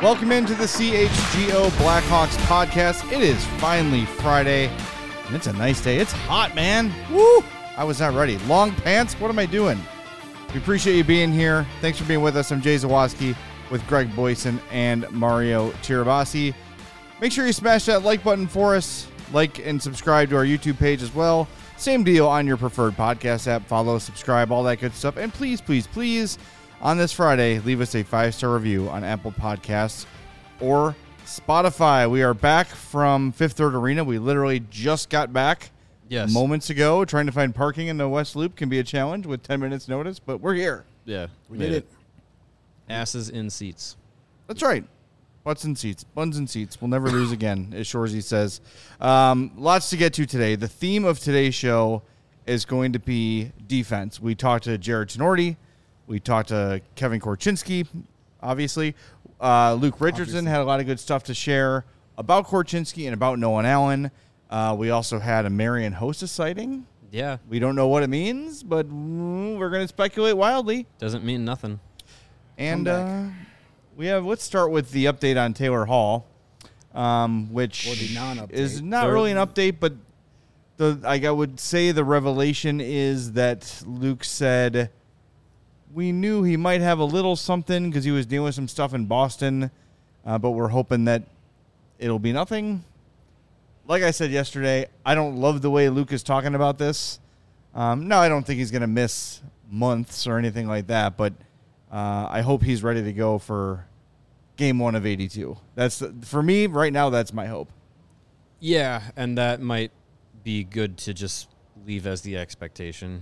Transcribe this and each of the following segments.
Welcome into the CHGO Blackhawks podcast. It is finally Friday, and it's a nice day. It's hot, man. Woo! I was not ready. Long pants? What am I doing? We appreciate you being here. Thanks for being with us. I'm Jay Zawoski with Greg Boyson and Mario Tirabassi. Make sure you smash that like button for us. Like and subscribe to our YouTube page as well. Same deal on your preferred podcast app. Follow, subscribe, all that good stuff. And please, please, please, on this Friday, leave us a 5-star review on Apple Podcasts or Spotify. We are back from Fifth Third Arena. We literally just got back moments ago. Trying to find parking in the West Loop can be a challenge with 10 minutes notice, but we're here. Yeah, we did it. Asses in seats. That's right. Butts in seats. Buns in seats. We'll never lose again, as Shorzy says. Lots to get to today. The theme of today's show is going to be defense. We talked to Jared Tenorti. We talked to Kevin Korchinski, obviously. Luke Richardson had a lot of good stuff to share about Korchinski and about Nolan Allen. We also had a Marian Hossa sighting. Yeah. We don't know what it means, but we're going to speculate wildly. Doesn't mean nothing. And let's start with the update on Taylor Hall, which is not really an update, but I would say the revelation is that Luke said we knew he might have a little something because he was dealing with some stuff in Boston, but we're hoping that it'll be nothing. Like I said yesterday, I don't love the way Luke is talking about this. No, I don't think he's going to miss months or anything like that, but I hope he's ready to go for game 1 of 82. For me, right now, that's my hope. Yeah, and that might be good to just leave as the expectation.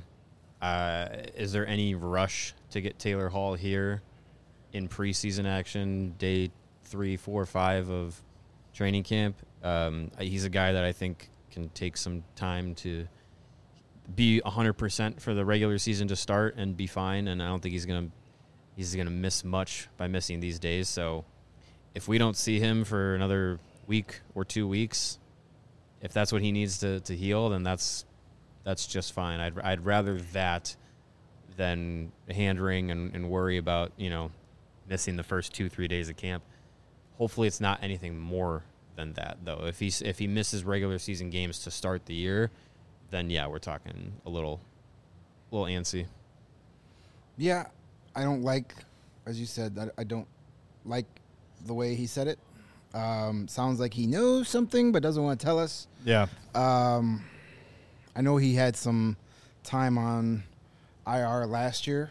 Is there any rush to get Taylor Hall here in preseason action, day 3, 4, 5 of training camp? He's a guy that I think can take some time to be 100% for the regular season to start and be fine, and I don't think he's gonna miss much by missing these days. So if we don't see him for another week or 2 weeks, if that's what he needs to heal, then that's just fine. I'd rather that than hand wring and worry about, missing the first 2-3 days of camp. Hopefully it's not anything more than that, though. If he misses regular season games to start the year, then yeah, we're talking a little antsy. Yeah, I don't like, as you said, I don't like the way he said it. Sounds like he knows something but doesn't want to tell us. Yeah. I know he had some time on IR last year,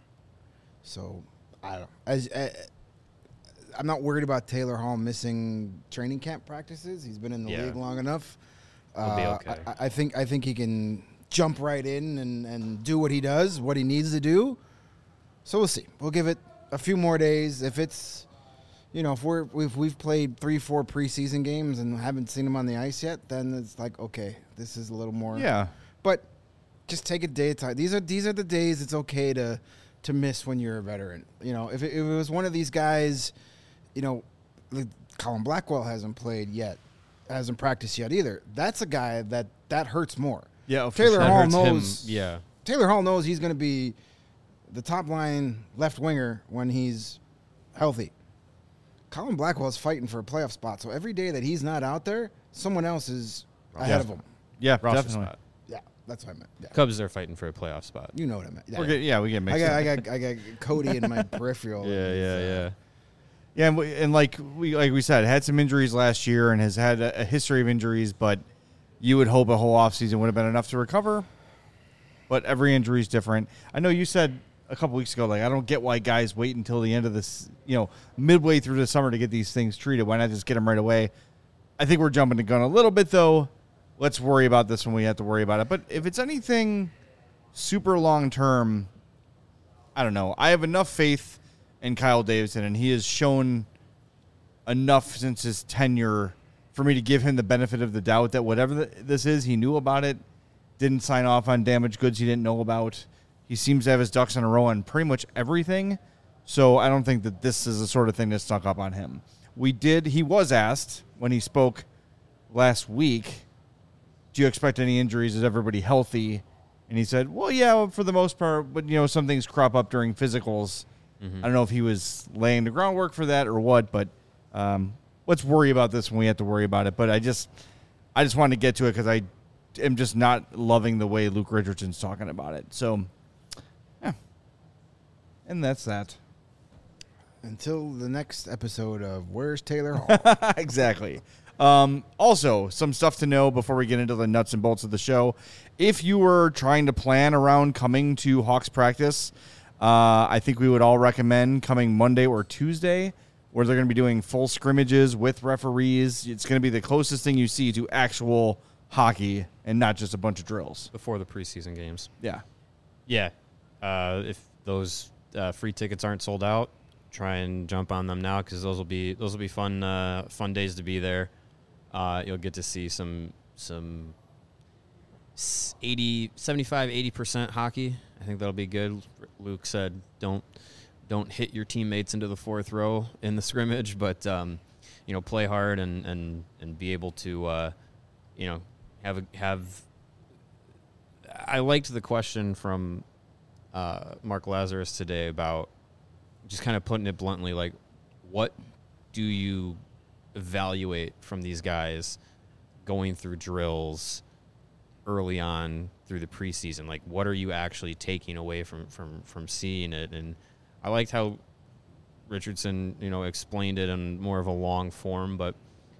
so I don't. I'm not worried about Taylor Hall missing training camp practices. He's been in the league long enough. He'll be okay. I think he can jump right in and do what he does, what he needs to do. So we'll see. We'll give it a few more days. If it's, if we've played 3-4 preseason games and haven't seen him on the ice yet, then it's like, okay, this is a little more. Yeah. But just take a day at a time. These are the days it's okay to miss when you're a veteran. If it was one of these guys, Colin Blackwell hasn't played yet, hasn't practiced yet either. That's a guy that hurts more. Yeah. Taylor Hall knows. Him, yeah. Taylor Hall knows he's going to be the top line left winger when he's healthy. Colin Blackwell's fighting for a playoff spot, so every day that he's not out there, someone else is ahead of him. Yeah, roster definitely. spot. Yeah, that's what I meant. Yeah. Cubs are fighting for a playoff spot. You know what I meant. Yeah, we get mixed up. I got Cody in my peripheral. Yeah. Yeah, and like we said, had some injuries last year and has had a history of injuries, but you would hope a whole offseason would have been enough to recover. But every injury is different. I know you said a couple weeks ago, I don't get why guys wait until the end of this, midway through the summer to get these things treated. Why not just get them right away? I think we're jumping the gun a little bit, though. Let's worry about this when we have to worry about it. But if it's anything super long-term, I don't know. I have enough faith in Kyle Davidson, and he has shown enough since his tenure for me to give him the benefit of the doubt that whatever this is, he knew about it, didn't sign off on damaged goods he didn't know about. He seems to have his ducks in a row on pretty much everything, so I don't think that this is the sort of thing that snuck up on him. He was asked when he spoke last week, do you expect any injuries? Is everybody healthy? And he said, well, yeah, for the most part, but, some things crop up during physicals. Mm-hmm. I don't know if he was laying the groundwork for that or what, but Let's worry about this when we have to worry about it. But I just wanted to get to it because I am just not loving the way Luke Richardson's talking about it. So, yeah. And that's that. Until the next episode of Where's Taylor Hall? Exactly. Also, some stuff to know before we get into the nuts and bolts of the show. If you were trying to plan around coming to Hawks practice, I think we would all recommend coming Monday or Tuesday, where they're going to be doing full scrimmages with referees. It's going to be the closest thing you see to actual hockey and not just a bunch of drills. Before the preseason games. Yeah. Yeah. If those free tickets aren't sold out, try and jump on them now because those will be fun days to be there. You'll get to see some 75-80% hockey. I think that'll be good. Luke said don't hit your teammates into the fourth row in the scrimmage, but play hard and be able to have. I liked the question from Mark Lazarus today about just kind of putting it bluntly, like, what do you evaluate from these guys going through drills early on through the preseason? Like, what are you actually taking away from seeing it? And I liked how Richardson, explained it in more of a long form, but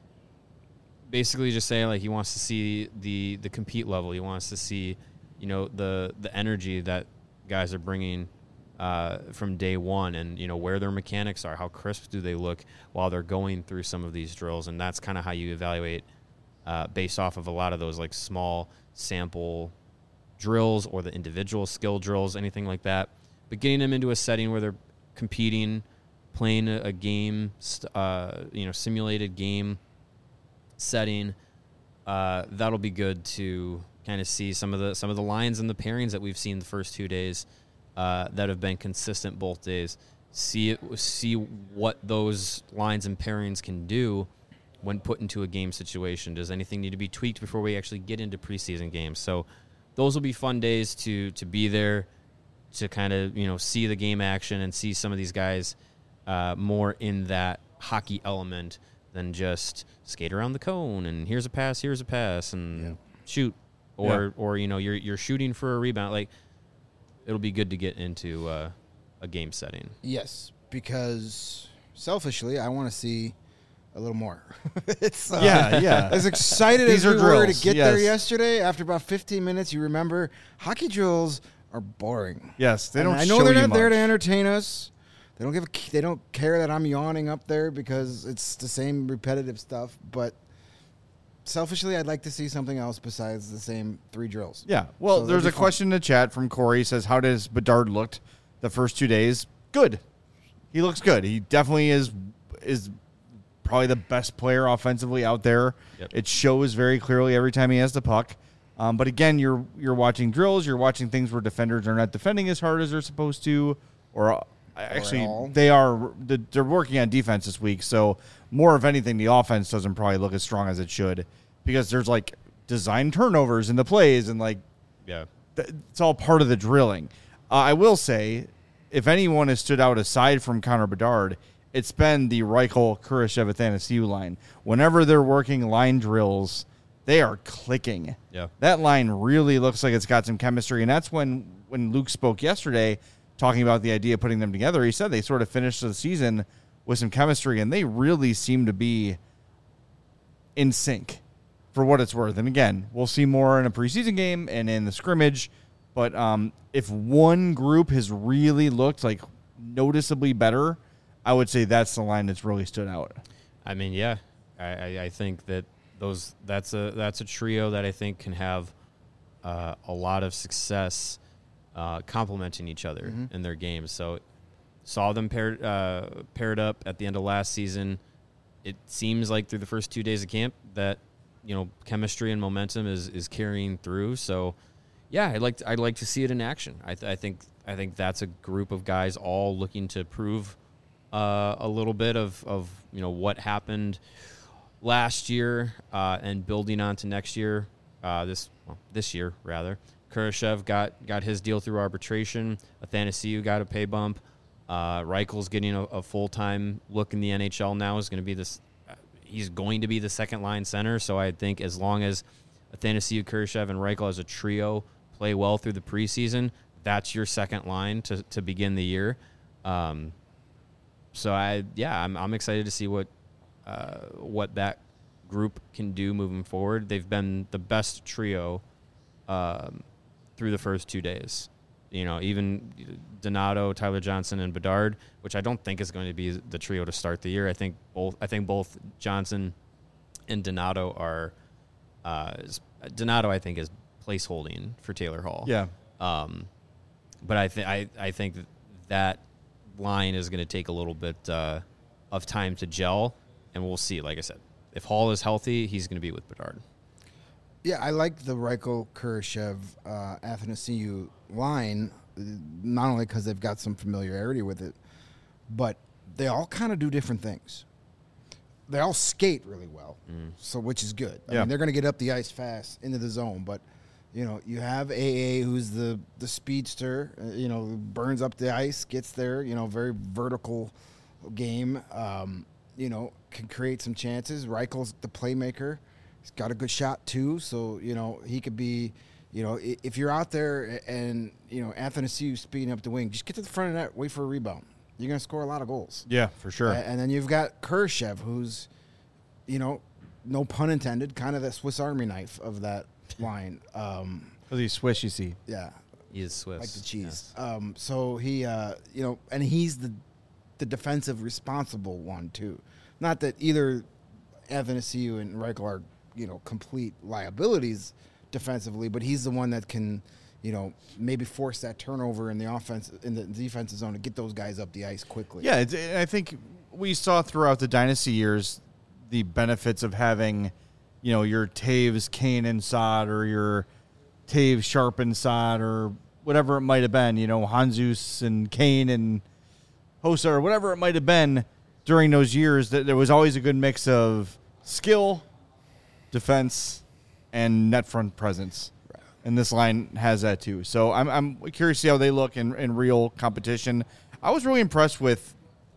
basically just saying, like, he wants to see the compete level. He wants to see, the energy that guys are bringing from day one, and where their mechanics are, how crisp do they look while they're going through some of these drills. And that's kind of how you evaluate based off of a lot of those like small sample drills or the individual skill drills, anything like that. But getting them into a setting where they're competing, playing a game, simulated game setting, that'll be good to kind of see some of the lines and the pairings that we've seen the first 2 days that have been consistent both days. See what those lines and pairings can do when put into a game situation. Does anything need to be tweaked before we actually get into preseason games? So those will be fun days to be there, to kind of see the game action and see some of these guys more in that hockey element than just skate around the cone and here's a pass and shoot, or you're shooting for a rebound. Like, it'll be good to get into a game setting. Yes, because selfishly, I want to see a little more. It's as excited as we were to get there yesterday. After about 15 minutes, you remember hockey drills are boring. Yes, they don't. I know they're not there to entertain us. They don't care that I'm yawning up there because it's the same repetitive stuff. But selfishly, I'd like to see something else besides the same 3 drills. Yeah. Well, so there's a question in the chat from Corey. He says, how does Bedard looked the first 2 days? Good. He looks good. He definitely is probably the best player offensively out there. Yep. It shows very clearly every time he has the puck. But again, you're watching drills. You're watching things where defenders are not defending as hard as they're supposed to, or actually they're working on defense this week. So more of anything, the offense doesn't probably look as strong as it should, because there's like design turnovers in the plays, and it's all part of the drilling. I will say, if anyone has stood out aside from Connor Bedard, it's been the Reichel, Kurashev, Athanasiou line. Whenever they're working line drills, they are clicking. Yeah. That line really looks like it's got some chemistry, and that's when Luke spoke yesterday talking about the idea of putting them together. He said they sort of finished the season with some chemistry, and they really seem to be in sync for what it's worth. And again, we'll see more in a preseason game and in the scrimmage, but if one group has really looked like noticeably better, I would say that's the line that's really stood out. I mean, yeah, I think that that's a trio that I think can have a lot of success complementing each other in their games. So saw them paired up at the end of last season. It seems like through the first 2 days of camp that chemistry and momentum is carrying through. So yeah, I'd like to see it in action. I think that's a group of guys all looking to prove a little bit of what happened last year and building on to next year. This year rather. Kurashev got his deal through arbitration. Athanasiou got a pay bump. Reichel's getting a full-time look in the NHL now. Is going to be this. He's going to be the second-line center. So I think as long as Athanasiou, Kurashev, and Reichel as a trio play well through the preseason, that's your second line to begin the year. I'm excited to see what that group can do moving forward. They've been the best trio through the first 2 days. Even Donato, Tyler Johnson, and Bedard, which I don't think is going to be the trio to start the year. I think both Johnson and Donato are. Donato, I think, is placeholding for Taylor Hall. Yeah. But I think that line is going to take a little bit of time to gel, and we'll see. Like I said, if Hall is healthy, he's going to be with Bedard. Yeah, I like the Reichel, Kurashev, Athanasiou line, not only because they've got some familiarity with it, but they all kind of do different things. They all skate really well, so which is good. I mean, they're going to get up the ice fast into the zone, but you have AA, who's the speedster, who burns up the ice, gets there, very vertical game, can create some chances. Reichel's the playmaker. He's got a good shot too, so he could be, if you're out there and Athanasiou speeding up the wing, just get to the front of the net, wait for a rebound. You're going to score a lot of goals. Yeah, for sure. And then you've got Kurashev, who's, no pun intended, kind of the Swiss Army knife of that line. Because he's Swiss, you see. Yeah, He is Swiss. like the cheese. Yes. So he, and he's the defensive responsible one too. Not that either Athanasiou and Reichel are complete liabilities defensively, but he's the one that can, maybe force that turnover in the offense, in the defensive zone, to get those guys up the ice quickly. Yeah, I think we saw throughout the dynasty years the benefits of having, your Taves, Kane, and Saad, or your Taves, Sharp, and Saad, or whatever it might have been, Hanzus and Kane and Hossa, or whatever it might have been during those years. That there was always a good mix of skill, defense, and net front presence. Right. And this line has that too. So I'm curious to see how they look in real competition. I was really impressed with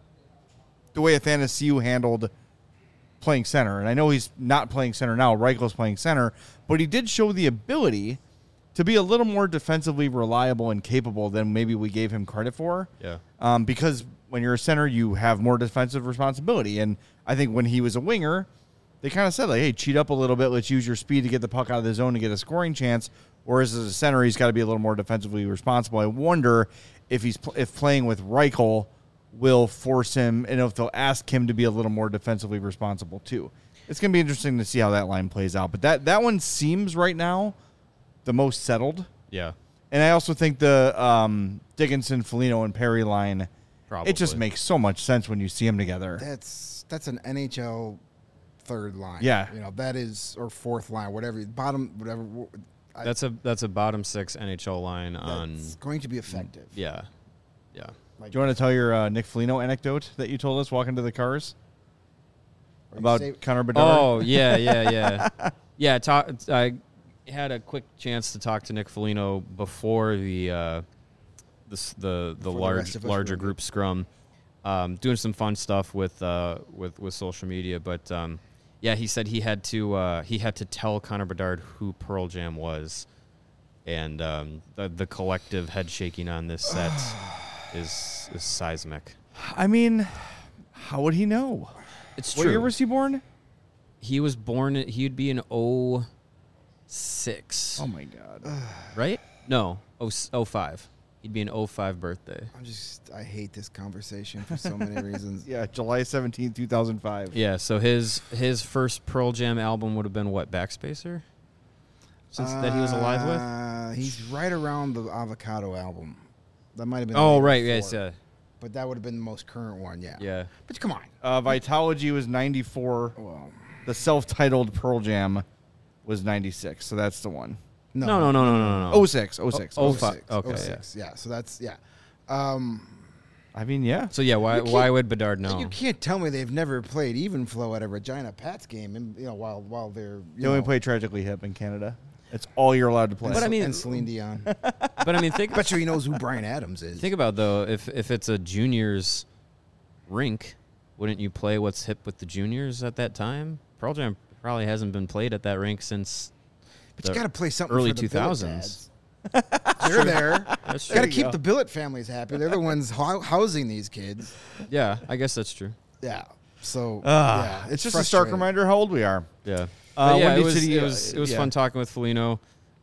the way Athanasiou handled playing center. And I know he's not playing center now. Reichel's playing center. But he did show the ability to be a little more defensively reliable and capable than maybe we gave him credit for. Yeah. Because when you're a center, you have more defensive responsibility. And I think when he was a winger, they kind of said, hey, cheat up a little bit. Let's use your speed to get the puck out of the zone to get a scoring chance. Whereas as a center, he's got to be a little more defensively responsible. I wonder if if playing with Reichel will force him, and if they'll ask him to be a little more defensively responsible too. It's going to be interesting to see how that line plays out. But that one seems right now the most settled. Yeah. And I also think the Dickinson, Foligno, and Perry line, Probably. it just makes so much sense when you see them together. That's an NHL third line. Yeah. That is, or fourth line, whatever, bottom, whatever. That's a bottom six NHL line on. It's going to be effective. Yeah. Like, Do you want to tell your Nick Foligno anecdote that you told us walking to the cars about Connor Bedard? Oh, yeah. Yeah, I had a quick chance to talk to Nick Foligno before the larger group scrum, doing some fun stuff with social media. But he said he had to tell Connor Bedard who Pearl Jam was, and the collective head shaking on this set is seismic. I mean, how would he know? It's What true. year was he born? He was born. He'd be in 06. Oh my God! Right? No, 05. He'd be an 05 birthday. I hate this conversation for so many reasons. Yeah, July 17, 2005. Yeah, so his first Pearl Jam album would have been what, Backspacer? Since that he was alive with? He's right around the Avocado album. That might have been. Oh, the year right, before, yes, yeah. But that would have been the most current one, yeah. Yeah. But come on. Vitology was 94. Well, The self-titled Pearl Jam was 96, so that's the one. No. 06. 06. Okay, 06. Yeah. So that's, yeah. I mean, yeah. So, yeah, why would Bedard know? You can't tell me they've never played Even Flow at a Regina Pats game, and while they're They only play Tragically Hip in Canada. That's all you're allowed to play. But I mean- and Celine Dion. But I mean, I bet you he knows who Brian Adams is. think about though, if it's a juniors rink, wouldn't you play what's hip with the juniors at that time? Pearl Jam probably hasn't been played at that rink since but you got to play something early for the 2000s. Billet dads. They're there. That's Got to true. keep the Billet families happy. They're the ones housing these kids. Yeah, I guess that's true. Yeah. So Ah, yeah, it's just a stark frustrating. reminder how old we are. Yeah. Uh, But yeah, Windy it was, City, it was yeah. fun talking with Foligno.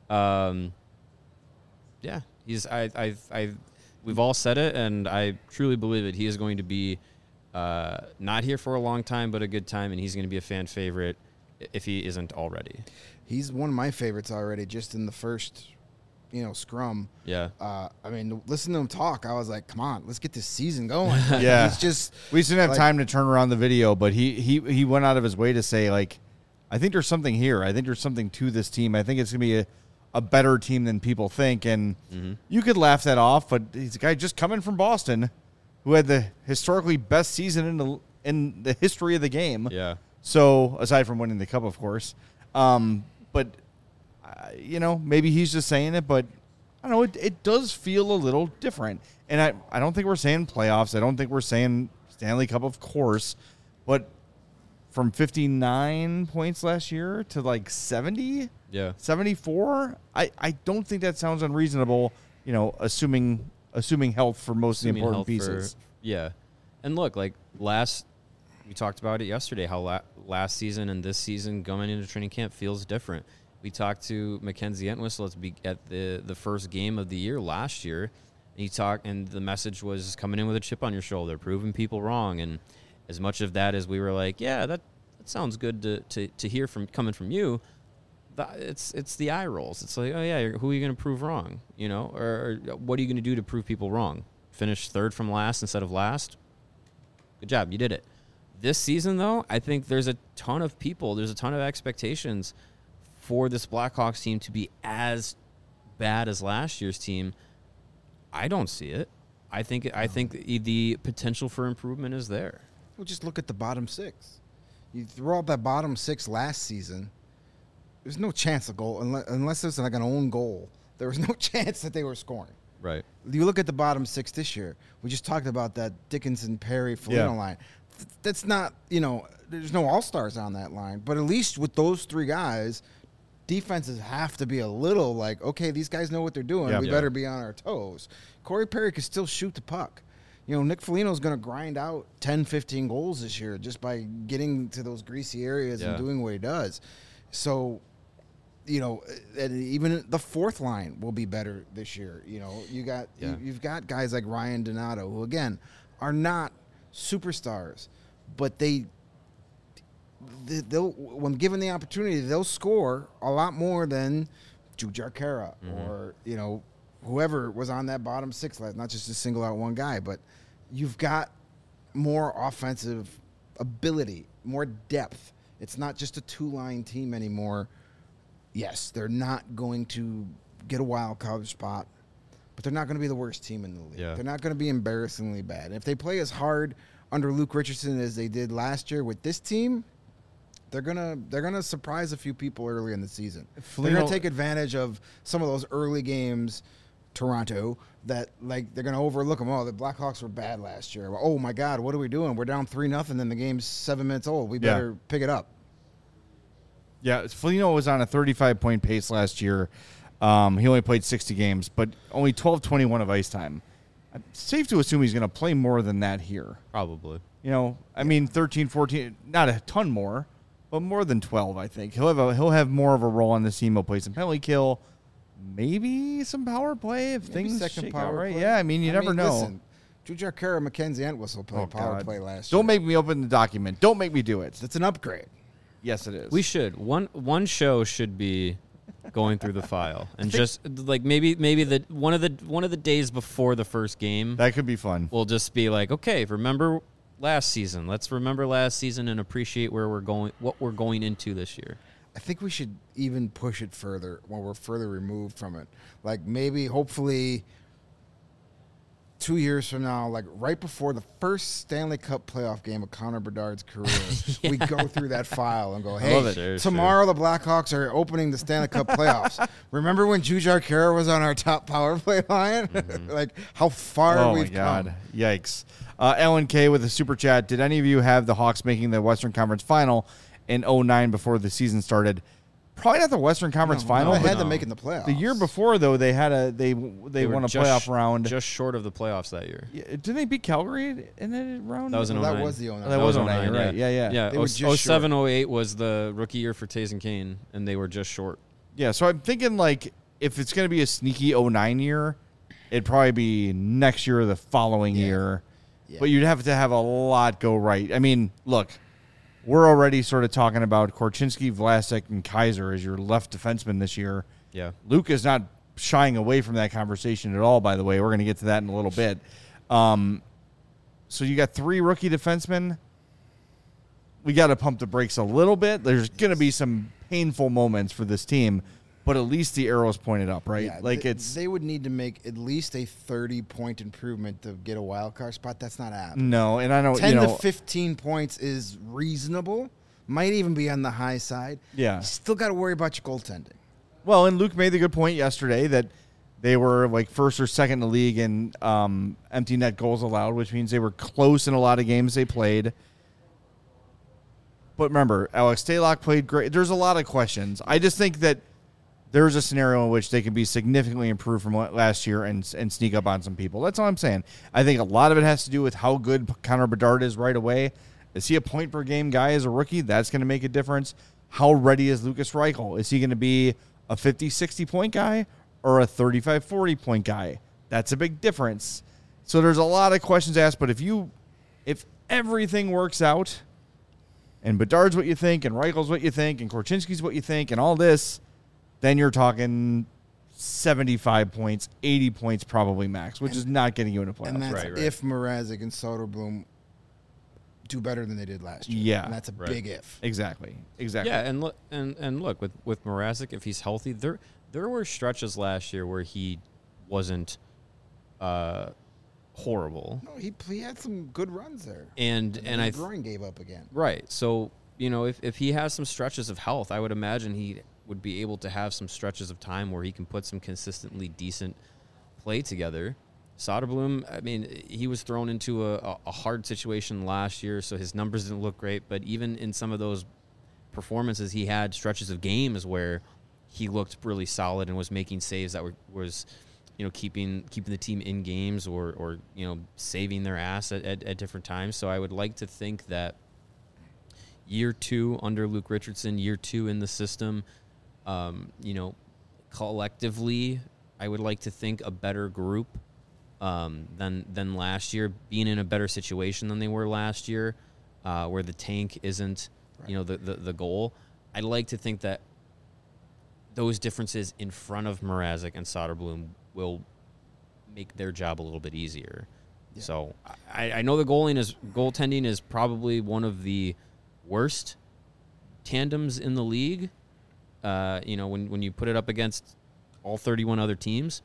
Yeah, he's we've all said it, and I truly believe it. He is going to be not here for a long time, but a good time, and he's going to be a fan favorite if he isn't already. He's one of my favorites already. Just in the first, scrum. Yeah. I mean, listen to him talk. I was like, come on, let's get this season going. Yeah. He's just We just didn't have like- time to turn around the video, but he went out of his way to say, like, I think there's something here. I think there's something to this team. I think it's going to be a better team than people think. And you could laugh that off, but he's a guy just coming from Boston who had the historically best season in the history of the game. Yeah. So, aside from winning the cup, of course. But, maybe he's just saying it, but I don't know. It does feel a little different. And I don't think we're saying playoffs. I don't think we're saying Stanley Cup, of course. But from 59 points last year to like 70, Yeah. 74, I don't think that sounds unreasonable, assuming health for most of the Assuming important health pieces. Yeah. And look, like we talked about it yesterday, how last season and this season going into training camp feels different. We talked to Mackenzie Entwistle at the first game of the year last year. And the message was coming in with a chip on your shoulder, proving people wrong. And as much of that as we were like, yeah, that sounds good to hear coming from you. It's the eye rolls. It's like, oh yeah, who are you going to prove wrong? Or what are you going to do to prove people wrong? Finish third from last instead of last? Good job, you did it. This season, though, I think there's a ton of expectations for this Blackhawks team to be as bad as last year's team. I don't see it. I think the potential for improvement is there. Well, just look at the bottom six. You throw out that bottom six last season, there's no chance of goal unless there's like an own goal. There was no chance that they were scoring. Right. You look at the bottom six this year. We just talked about that Dickinson, Perry, Foligno line. That's not, there's no all-stars on that line. But at least with those three guys, defenses have to be a little like, okay, these guys know what they're doing. Yeah. We Yeah. better be on our toes. Corey Perry can still shoot the puck. Nick Foligno's going to grind out 10, 15 goals this year just by getting to those greasy areas and doing what he does. So, and even the fourth line will be better this year. You've got guys like Ryan Donato, who again are not superstars, but they'll when given the opportunity, they'll score a lot more than Jujhar Khaira or whoever was on that bottom six last. Not just to single out one guy, but you've got more offensive ability, more depth. It's not just a two-line team anymore. Yes, they're not going to get a wild card spot, but they're not going to be the worst team in the league. Yeah. They're not going to be embarrassingly bad. And if they play as hard under Luke Richardson as they did last year with this team, they're gonna surprise a few people early in the season. They're gonna take advantage of some of those early games, Toronto, that like they're gonna overlook them. Oh, the Blackhawks were bad last year. Oh my God, what are we doing? We're down 3-0, and the game's 7 minutes old. We better pick it up. Yeah, Foligno was on a 35-point pace last year. He only played 60 games, but only 12-21 of ice time. It's safe to assume he's going to play more than that here. Probably. 13, 14, not a ton more, but more than 12, I think. He'll have more of a role on this team. He'll play some penalty kill, maybe some power play if Maybe things second shake power out right. play. Yeah, you never know. Listen, Jujhar Khaira, Mackenzie Entwistle played power God. play last year. Don't make me open the document. Don't make me do it. That's an upgrade. Yes, it is. We should. One show should be going through the file and just like maybe the one of the days before the first game. That could be fun. We'll just be like, okay, remember last season. Let's remember last season and appreciate where we're going, what we're going into this year. I think we should even push it further when we're further removed from it. Like maybe, hopefully, 2 years from now, like right before the first Stanley Cup playoff game of Connor Bedard's career, we go through that file and go, love hey, it. Sure, tomorrow the Blackhawks are opening the Stanley Cup playoffs. Remember when Jujhar Khaira was on our top power play line? Like how far we've come. Yikes. Alan K with a super chat. Did any of you have the Hawks making the Western Conference final in 2009 before the season started? Probably not the Western Conference final. I but had them making the playoffs. the year before, though, they had they won a playoff round. Just short of the playoffs that year. Yeah, didn't they beat Calgary in that round? That was in Well, 09. that was the 09. Oh, that was 09, right? Yeah. Yeah, They were just 07, 08 was the rookie year for Taze and Kane, and they were just short. Yeah, so I'm thinking, like, if it's going to be a sneaky 09 year, it'd probably be next year or the following year. Yeah. But you'd have to have a lot go right. I mean, look, we're already sort of talking about Korchinski, Vlasic, and Kaiser as your left defenseman this year. Yeah. Luke is not shying away from that conversation at all, by the way. We're going to get to that in a little bit. So you got 3 rookie defensemen. We got to pump the brakes a little bit. There's going to be some painful moments for this team, but at least the arrow's pointed up, right? Yeah, like they would need to make at least a 30-point improvement to get a wild card spot. That's not happening. no, and I know 10 you to know 15 points is reasonable. Might even be on the high side. Yeah. You still got to worry about your goaltending. Well, and Luke made the good point yesterday that they were like first or second in the league in empty net goals allowed, which means they were close in a lot of games they played. But remember, Alex Stalock played great. There's a lot of questions. I just think that there's a scenario in which they can be significantly improved from last year and sneak up on some people. That's all I'm saying. I think a lot of it has to do with how good Connor Bedard is right away. Is he a point-per-game guy as a rookie? That's going to make a difference. How ready is Lucas Reichel? Is he going to be a 50, 60-point guy or a 35, 40-point guy? That's a big difference. So there's a lot of questions asked, but if everything works out and Bedard's what you think and Reichel's what you think and Korchinski's what you think and all this, then you're talking 75 points, 80 points probably max, which is not getting you into playoffs. And that's Right. if Mrazek and Soderblom do better than they did last year. Yeah. And that's a big if. Exactly. Yeah, and look with Mrazek, if he's healthy, there were stretches last year where he wasn't horrible. No, he had some good runs there. And then Groin gave up again. right. So, if he has some stretches of health, I would imagine he would be able to have some stretches of time where he can put some consistently decent play together. Soderblom, I mean, he was thrown into a hard situation last year, so his numbers didn't look great. But even in some of those performances, he had stretches of games where he looked really solid and was making saves that was keeping the team in games or saving their ass at different times. So I would like to think that year 2 under Luke Richardson, year 2 in the system, collectively, I would like to think a better group than last year, being in a better situation than they were last year, where the tank isn't, the goal. I'd like to think that those differences in front of Mrazek and Soderblom will make their job a little bit easier. Yeah. So I know the goaltending is probably one of the worst tandems in the league. When you put it up against all 31 other teams.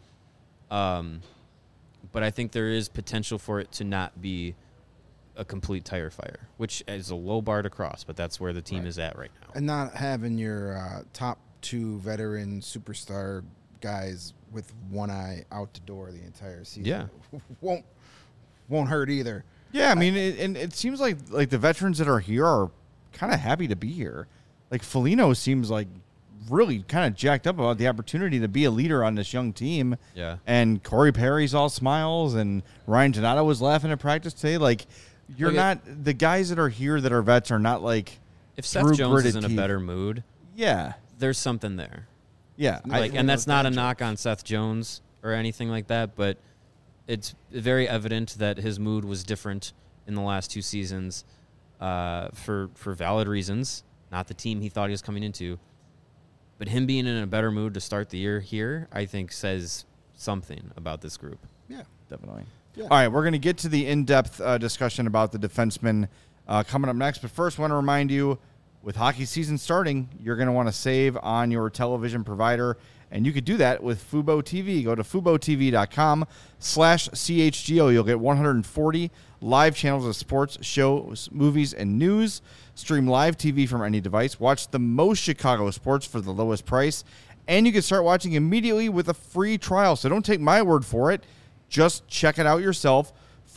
But I think there is potential for it to not be a complete tire fire, which is a low bar to cross, but that's where the team is at right now. And not having your top 2 veteran superstar guys with one eye out the door the entire season won't hurt either. Yeah, I mean, it seems like the veterans that are here are kind of happy to be here. Like Foligno seems like really kind of jacked up about the opportunity to be a leader on this young team. Yeah. And Corey Perry's all smiles, and Ryan Donato was laughing at practice today. Like, you're not the guys that are here that are vets are not like if Seth Jones is in a better mood. Yeah, there's something there. Yeah, and that's not a knock on Seth Jones or anything like that, but it's very evident that his mood was different in the last 2 seasons for valid reasons. Not the team he thought he was coming into. But him being in a better mood to start the year here, I think, says something about this group. Yeah, definitely. Yeah. All right, we're going to get to the in-depth discussion about the defensemen coming up next. But first, I want to remind you, With hockey season starting, you're going to want to save on your television provider, and you could do that with Fubo TV. Go to FuboTV.com/CHGO. You'll get 140 live channels of sports, shows, movies, and news. Stream live TV from any device. Watch the most Chicago sports for the lowest price, and you can start watching immediately with a free trial. So don't take my word for it. Just check it out yourself.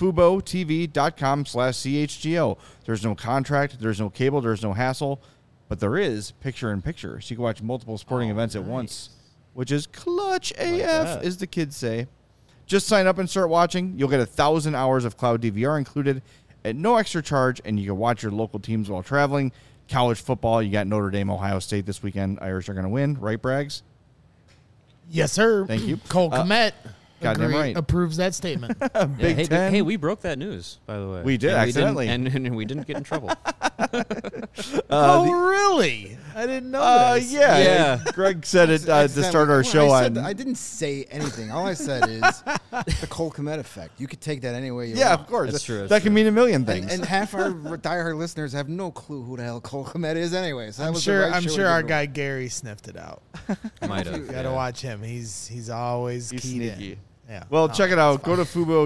FuboTV.com/CHGO. There's no contract, there's no cable, there's no hassle, but there is picture-in-picture. So you can watch multiple sporting events at once, which is clutch AF, as the kids say. Just sign up and start watching. You'll get 1,000 hours of cloud DVR included at no extra charge, and you can watch your local teams while traveling. College football, you got Notre Dame, Ohio State this weekend. Irish are going to win, right, Braggs? Yes, sir. Thank you. Cole Kmet goddamn right. approves that statement. Big Ten. Hey, we broke that news, by the way. We did, and accidentally. and we didn't get in trouble. Really? I didn't know this. Yeah. Greg said it to start our show on. I didn't say anything. All I said is the Cole Kmet effect. You could take that any way you Yeah, want. of course. That's true. That can mean a million things. And half our diehard listeners have no clue who the hell Cole Kmet is anyway. So that I'm was sure. the right I'm show sure to our go. guy Gary sniffed it out. Might have. You got to watch him. He's always He's keyed sneaky. in. Yeah. Well, No, check it out. Go to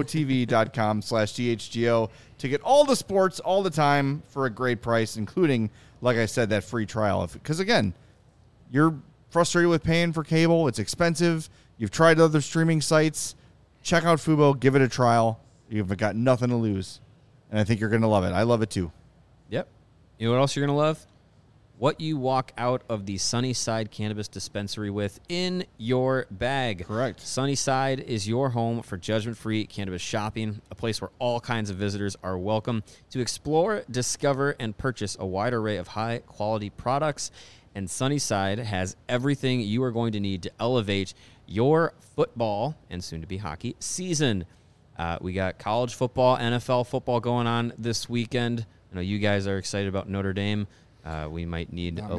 FuboTV.com/DHGO to get all the sports all the time for a great price, including, like I said, that free trial. Because, again, you're frustrated with paying for cable. It's expensive. You've tried other streaming sites. Check out Fubo. Give it a trial. You've got nothing to lose. And I think you're going to love it. I love it, too. Yep. You know what else you're going to love? What you walk out of the Sunnyside Cannabis Dispensary with in your bag. Correct. Sunnyside is your home for judgment-free cannabis shopping, a place where all kinds of visitors are welcome to explore, discover, and purchase a wide array of high-quality products. And Sunnyside has everything you are going to need to elevate your football and soon-to-be hockey season. We got college football, NFL football going on this weekend. I know you guys are excited about Notre Dame. We might need a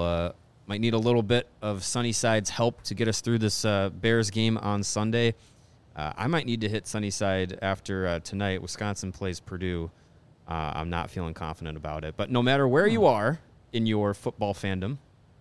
little bit of Sunnyside's help to get us through this Bears game on Sunday. I might need to hit Sunnyside after tonight. Wisconsin plays Purdue. I'm not feeling confident about it. But no matter where you are in your football fandom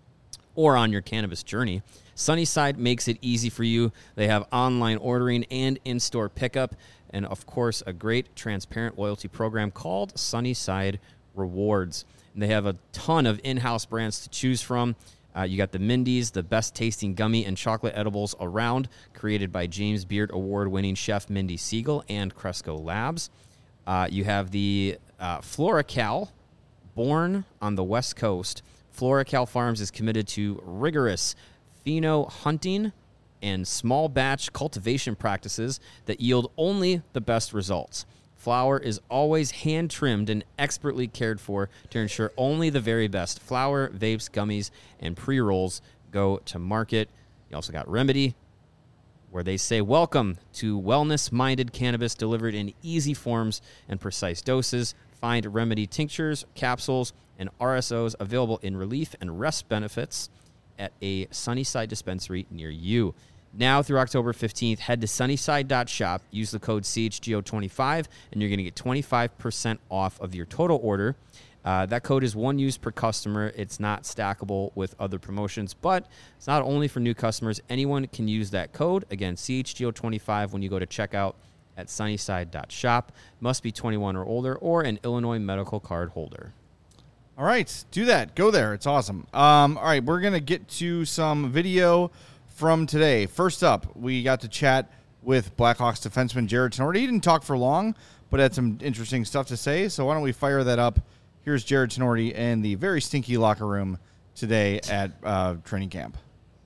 or on your cannabis journey, Sunnyside makes it easy for you. They have online ordering and in-store pickup, and of course, a great transparent loyalty program called Sunnyside Rewards. And they have a ton of in-house brands to choose from. You got the Mindy's, the best tasting gummy and chocolate edibles around, created by James Beard award-winning chef Mindy Siegel and Cresco Labs. You have the FloraCal, born on the West Coast. FloraCal Farms is committed to rigorous pheno hunting and small batch cultivation practices that yield only the best results. Flower is always hand-trimmed and expertly cared for to ensure only the very best flower, vapes, gummies, and pre-rolls go to market. You also got Remedy, where they say, welcome to wellness-minded cannabis delivered in easy forms and precise doses. Find Remedy tinctures, capsules, and RSOs available in relief and rest benefits at a Sunnyside dispensary near you. Now through October 15th, head to sunnyside.shop, use the code CHGO25, and you're going to get 25% off of your total order. That code is one use per customer. It's not stackable with other promotions, but it's not only for new customers. Anyone can use that code. Again, CHGO25 when you go to checkout at sunnyside.shop. Must be 21 or older or an Illinois medical card holder. All right, do that. Go there. It's awesome. All right, we're going to get to some video from today. First up, we got to chat with Blackhawks defenseman Jared Tenorti. He didn't talk for long, but had some interesting stuff to say. So why don't we fire that up? Here's Jared Tenorti in the very stinky locker room today at training camp.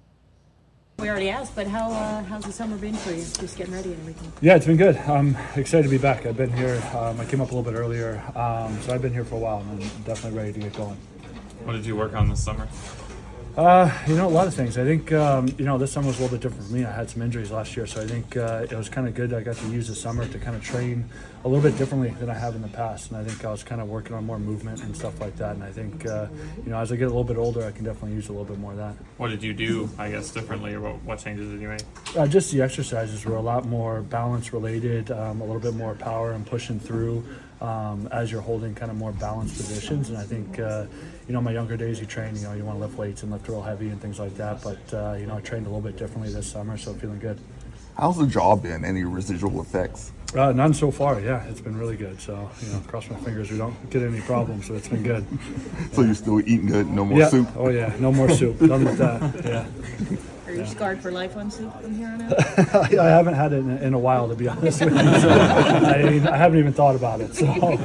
We already asked, but how's the summer been for you? Just getting ready and everything. Yeah, it's been good. I'm excited to be back. I've been here. I came up a little bit earlier, so I've been here for a while, and I'm definitely ready to get going. What did you work on this summer? A lot of things. I think, this summer was a little bit different for me. I had some injuries last year, so I think it was kind of good. I got to use the summer to kind of train a little bit differently than I have in the past, and I think I was kind of working on more movement and stuff like that. And I think, as I get a little bit older, I can definitely use a little bit more of that. What did you do, I guess, differently, or what changes did you make? Just the exercises were a lot more balance related, a little bit more power and pushing through. as you're holding kind of more balanced positions. And I think, my younger days you train, you want to lift weights and lift real heavy and things like that. But, I trained a little bit differently this summer, so feeling good. How's the jaw been? Any residual effects? None so far, yeah. It's been really good. So, cross my fingers we don't get any problems, so it's been good. So you're still eating good? No more soup? Oh, yeah. No more soup. Done with that, yeah. Are you scarred for life on soup from here on out? I haven't had it in a while, to be honest with you. So I haven't even thought about it. So,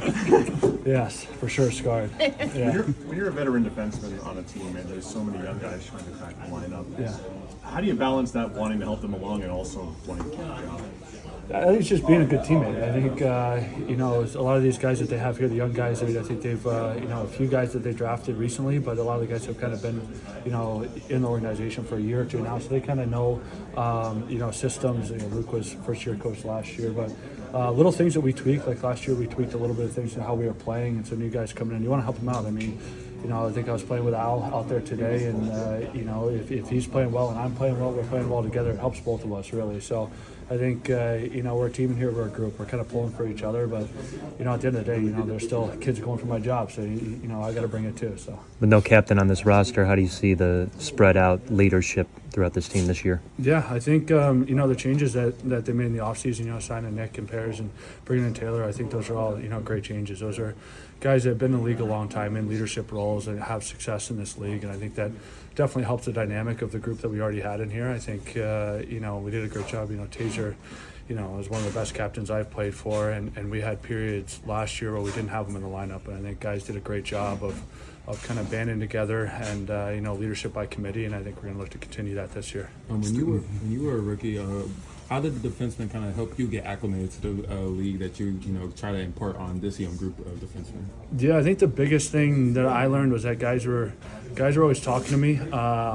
yes, for sure, scarred. Yeah. When you're a veteran defenseman on a team and there's so many young guys trying to crack the lineup, Yeah. how do you balance that wanting to help them along and also wanting to keep the job? I think it's just being a good teammate. I think, a lot of these guys that they have here, the young guys, I think they've, a few guys that they drafted recently, but a lot of the guys have kind of been, in the organization for a year or two now, so they kind of know, systems. Luke was first-year coach last year, but little things that we tweak, like last year we tweaked a little bit of things in how we were playing, and so new guys coming in, you want to help them out. I mean, I think I was playing with Al out there today, and, if he's playing well and I'm playing well, we're playing well together. It helps both of us, really. So I think, we're a team in here, we're a group. We're kind of pulling for each other, but, at the end of the day, there's still kids going for my job, so, I got to bring it too. So. With no captain on this roster, how do you see the spread out leadership throughout this team this year? Yeah, I think, the changes that they made in the offseason, signing Nick and Pears and bringing in Taylor, I think those are all, great changes. Those are guys that have been in the league a long time in leadership roles and have success in this league, and I think that definitely helps the dynamic of the group that we already had in here. I think, we did a great job. Taser, was one of the best captains I've played for, and we had periods last year where we didn't have him in the lineup, and I think guys did a great job of kind of banding together and, leadership by committee, and I think we're going to look to continue that this year. When you were a rookie, how did the defensemen kind of help you get acclimated to the league that you try to impart on this young group of defensemen? Yeah, I think the biggest thing that I learned was that guys were always talking to me,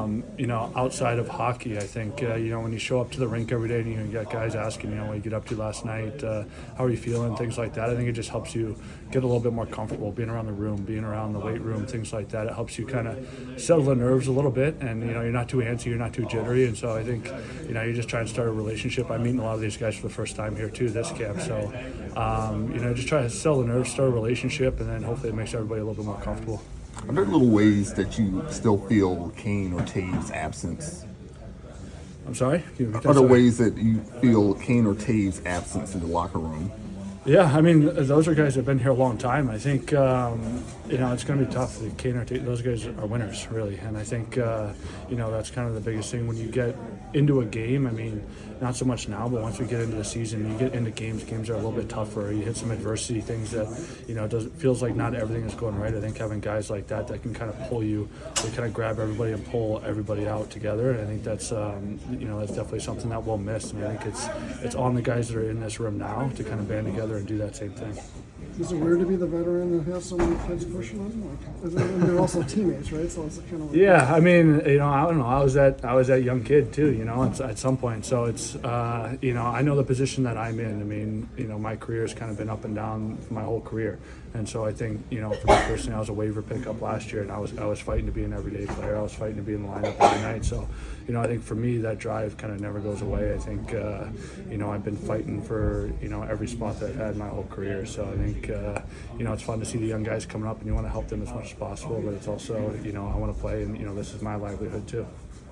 outside of hockey. I think, when you show up to the rink every day and you got guys asking, what you get up to last night, how are you feeling, things like that. I think it just helps you get a little bit more comfortable being around the room, being around the weight room, things like that. It helps you kind of settle the nerves a little bit, and, you're not too antsy, you're not too jittery, and so I think, you just try and start a relationship. I'm meeting a lot of these guys for the first time here too, this camp, so, just try to settle the nerves, start a relationship, and then hopefully it makes everybody a little bit more comfortable. Are there little ways that you still feel Kane or Taves' absence? I'm sorry? Are there ways that you feel Kane or Taves' absence in the locker room? Yeah, I mean, those are guys that have been here a long time. I think, it's going to be tough. Those guys are winners, really. And I think, that's kind of the biggest thing when you get into a game. I mean, not so much now, but once we get into the season, you get into games are a little bit tougher. You hit some adversity, things that, feels like not everything is going right. I think having guys like that can kind of pull you, they kind of grab everybody and pull everybody out together. And I think that's, that's definitely something that we'll miss. And I think it's on the guys that are in this room now to kind of band together and do that same thing. Is it weird to be the veteran and have so many kids pushing them? And they're also teammates, right? So it's kind of like I mean, I don't know. I was that young kid too, at some point. So it's, I know the position that I'm in. I mean, my career has kind of been up and down my whole career. And so I think, for me personally, I was a waiver pickup last year, and I was fighting to be an everyday player. I was fighting to be in the lineup every night. So, I think for me, that drive kind of never goes away. I think, I've been fighting for, every spot that I've had my whole career. So I think, it's fun to see the young guys coming up, and you want to help them as much as possible. But it's also, I want to play, and, this is my livelihood too.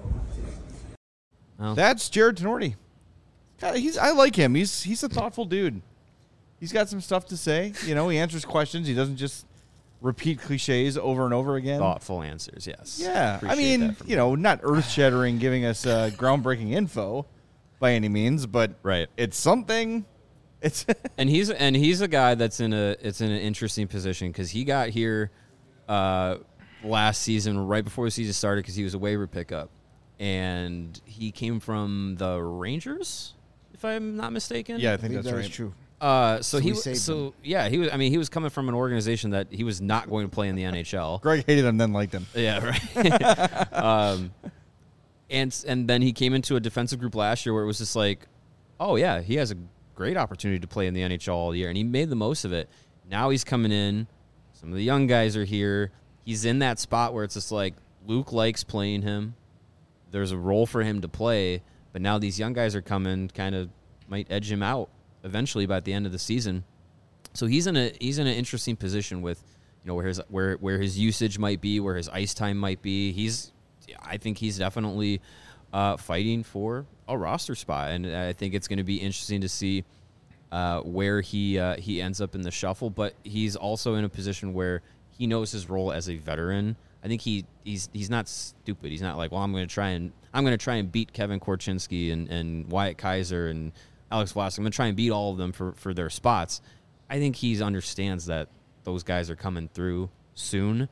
Well, that's Jared Tenorti. I like him. He's a thoughtful dude. He's got some stuff to say. He answers questions. He doesn't just repeat cliches over and over again. Thoughtful answers, yes. Yeah. I mean, not earth-shattering, giving us groundbreaking info by any means, but right. It's something. It's and he's a guy that's in an interesting position because he got here last season right before the season started because he was a waiver pickup, and he came from the Rangers, if I'm not mistaken. Yeah, I think that's that right. is true. He was coming from an organization that he was not going to play in the NHL. Greg hated him, then liked him. Yeah, right. And then he came into a defensive group last year where it was just like, oh yeah, he has a great opportunity to play in the NHL all year, and he made the most of it. Now he's coming in. Some of the young guys are here. He's in that spot where it's just like Luke likes playing him. There's a role for him to play, but now these young guys are coming, kind of might edge him out eventually by the end of the season. So he's in an interesting position with, where his usage might be, where his ice time might be. I think he's definitely fighting for a roster spot, and I think it's going to be interesting to see where he ends up in the shuffle. But he's also in a position where he knows his role as a veteran. I think he's not stupid. He's not like, well, I'm going to try and beat Kevin Korchinski and Wyatt Kaiser and Alex Vlasic. I'm going to try and beat all of them for their spots. I think he understands that those guys are coming through soon.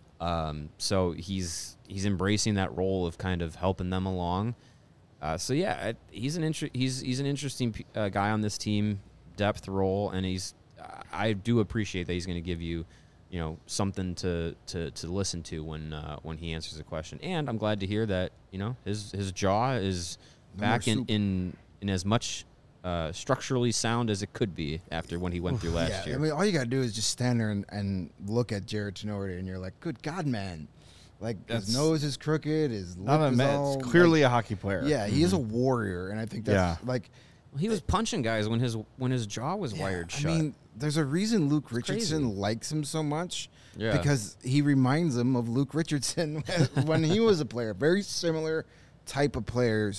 So he's embracing that role of kind of helping them along. He's an interesting guy on this team, depth role, and I do appreciate that he's going to give you, something to listen to when he answers a question. And I'm glad to hear that his jaw is back in as much structurally sound as it could be after when he went through last year. I mean, all you got to do is just stand there and look at Jared Tenorti, and you're like, good God, man. Like, his nose is crooked, his lip is all... It's clearly a hockey player. Yeah, he is a warrior, and I think that's like... Well, he was punching guys when his jaw was wired shut. I mean, there's a reason Luke Richardson likes him so much. Yeah. Because he reminds him of Luke Richardson when he was a player. Very similar type of players.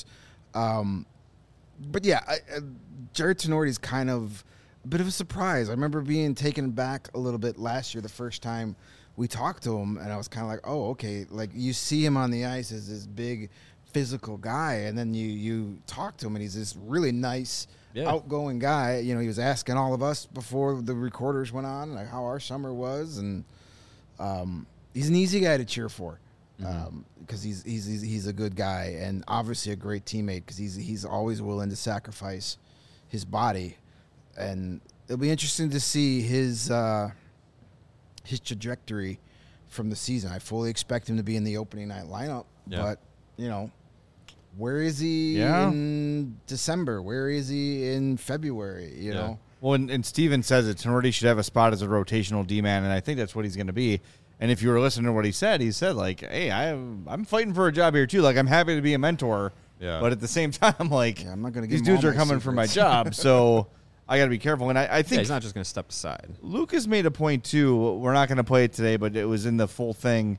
But yeah, Jared Tenorti is kind of a bit of a surprise. I remember being taken back a little bit last year, the first time we talked to him, and I was kind of like, oh, okay. Like, you see him on the ice as this big physical guy, and then you talk to him, and he's this really nice, outgoing guy. He was asking all of us before the recorders went on, like, how our summer was, and he's an easy guy to cheer for. Because he's a good guy and obviously a great teammate because he's always willing to sacrifice his body, and it'll be interesting to see his trajectory from the season. I fully expect him to be in the opening night lineup, but where is he in December? Where is he in February? You know. Well, and Steven says that Tenorti should have a spot as a rotational D-man, and I think that's what he's going to be. And if you were listening to what he said, like, hey, I'm fighting for a job here, too. Like, I'm happy to be a mentor. Yeah. But at the same time, like, I'm not gonna these dudes are coming for my job, so I got to be careful. And I think he's not just going to step aside. Lucas made a point, too. We're not going to play it today, but it was in the full thing.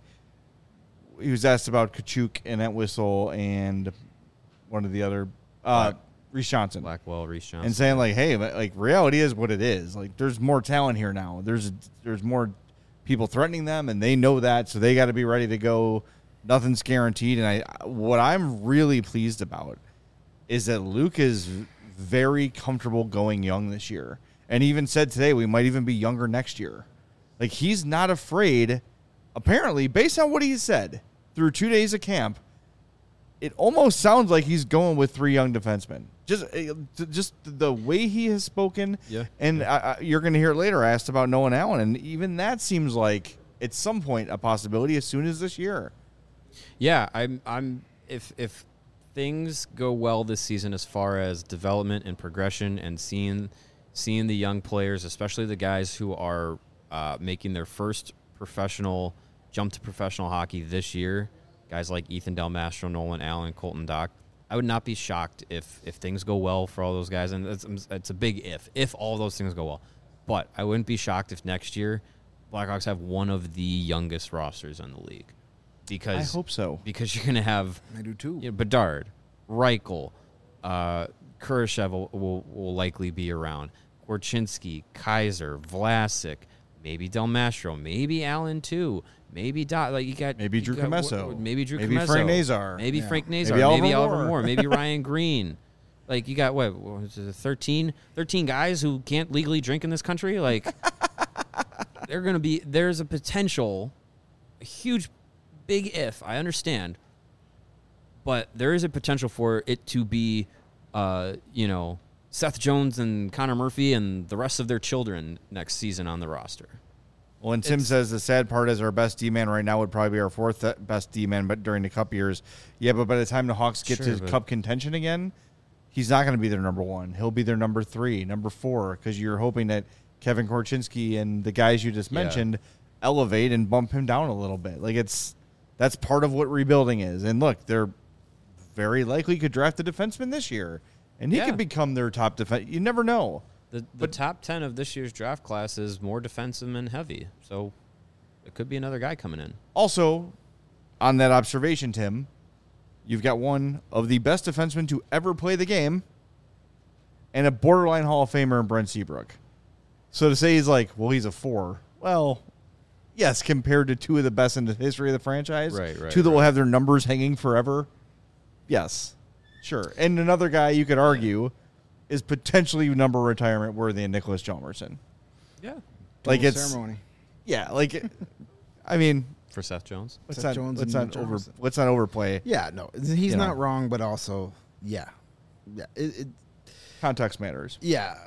He was asked about Kachuk and Entwistle and one of the other Reese Johnson. Blackwell, Reese Johnson. And saying, like, hey, like, reality is what it is. Like, there's more talent here now. There's more people threatening them, and they know that, so they got to be ready to go. Nothing's guaranteed. And what I'm really pleased about is that Luke is very comfortable going young this year. And he even said today we might even be younger next year. Like, he's not afraid, apparently, based on what he said through 2 days of camp. It almost sounds like he's going with 3 young defensemen. Just the way he has spoken. Yeah. And you're going to hear it later. I asked about Nolan Allen, and even that seems like at some point a possibility as soon as this year. Yeah, I'm if things go well this season as far as development and progression and seeing the young players, especially the guys who are making their first professional jump to professional hockey this year, guys like Ethan Del Mastro, Nolan Allen, Colton Dach, I would not be shocked if things go well for all those guys. And it's a big if all those things go well. But I wouldn't be shocked if next year Blackhawks have one of the youngest rosters in the league. Because I hope so. Because you're going to have I do too. Bedard, Reichel, Kurashev will likely be around. Korchinski, Kaiser, Vlasic, maybe Del Mastro, maybe Allen too. Maybe Drew Commesso. Maybe Drew maybe Commesso. Frank Nazar. Maybe Frank Nazar. Maybe Oliver Moore. Maybe Ryan Green. Like, you got, 13 guys who can't legally drink in this country? Like, there's a potential, a huge, big if, I understand. But there is a potential for it to be, Seth Jones and Connor Murphy and the rest of their children next season on the roster. Well, and Tim says the sad part is our best D-man right now would probably be our 4th best D-man, but during the Cup years. Yeah, but by the time the Hawks get to Cup contention again, he's not going to be their number 1. He'll be their number 3, number 4, because you're hoping that Kevin Korchinski and the guys you just mentioned elevate and bump him down a little bit. Like, that's part of what rebuilding is. And look, they're very likely could draft a defenseman this year, and he could become their top defense. You never know. The top 10 of this year's draft class is more defenseman heavy, so it could be another guy coming in. Also, on that observation, Tim, you've got one of the best defensemen to ever play the game and a borderline Hall of Famer in Brent Seabrook. So to say he's like, well, he's a 4. Well, yes, compared to two of the best in the history of the franchise. Right, two that will have their numbers hanging forever. Yes, sure. And another guy you could argue is potentially number retirement worthy in Nicholas Hjalmarsson. Yeah. Like Double it's ceremony. Yeah, like I mean, for Seth Jones. Let's Seth not Jones let's and not over Hjalmarsson. let's not overplay. Yeah, no, he's You not know. wrong, but also, yeah. Context matters. Yeah.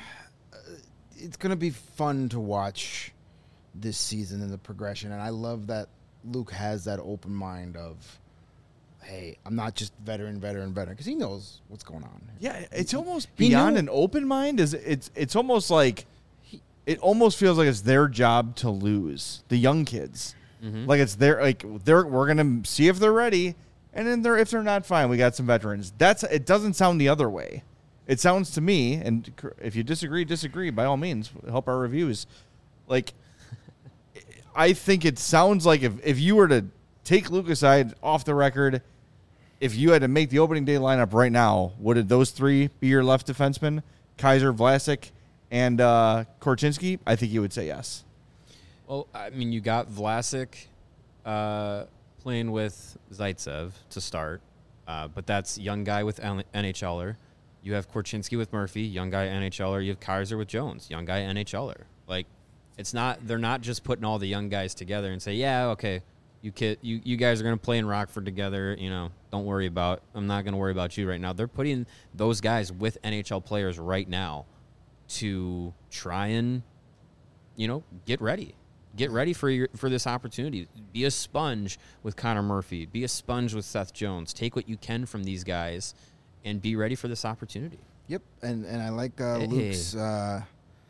It's going to be fun to watch this season and the progression, and I love that Luke has that open mind of, hey, I'm not just veteran, because he knows what's going on. Yeah, it's almost He beyond knew- an open mind. It's almost like it almost feels like it's their job to lose the young kids. Like it's we're gonna see if they're ready, and then if they're not, fine. We got some veterans. It doesn't sound the other way. It sounds to me, and if you disagree by all means. Help our reviews. Like I think it sounds like if you were to take Luke aside off the record, if you had to make the opening day lineup right now, would those three be your left defensemen? Kaiser, Vlasic, and Korchinski? I think you would say yes. Well, I mean, you got Vlasic playing with Zaitsev to start, but that's young guy with NHLer. You have Korchinski with Murphy, young guy NHLer. You have Kaiser with Jones, young guy NHLer. Like, they're not just putting all the young guys together and say, yeah, okay, you guys are going to play in Rockford together. I'm not going to worry about you right now. They're putting those guys with NHL players right now to try and, get ready. Get ready for this opportunity. Be a sponge with Connor Murphy. Be a sponge with Seth Jones. Take what you can from these guys and be ready for this opportunity. Yep, and I like Luke's. I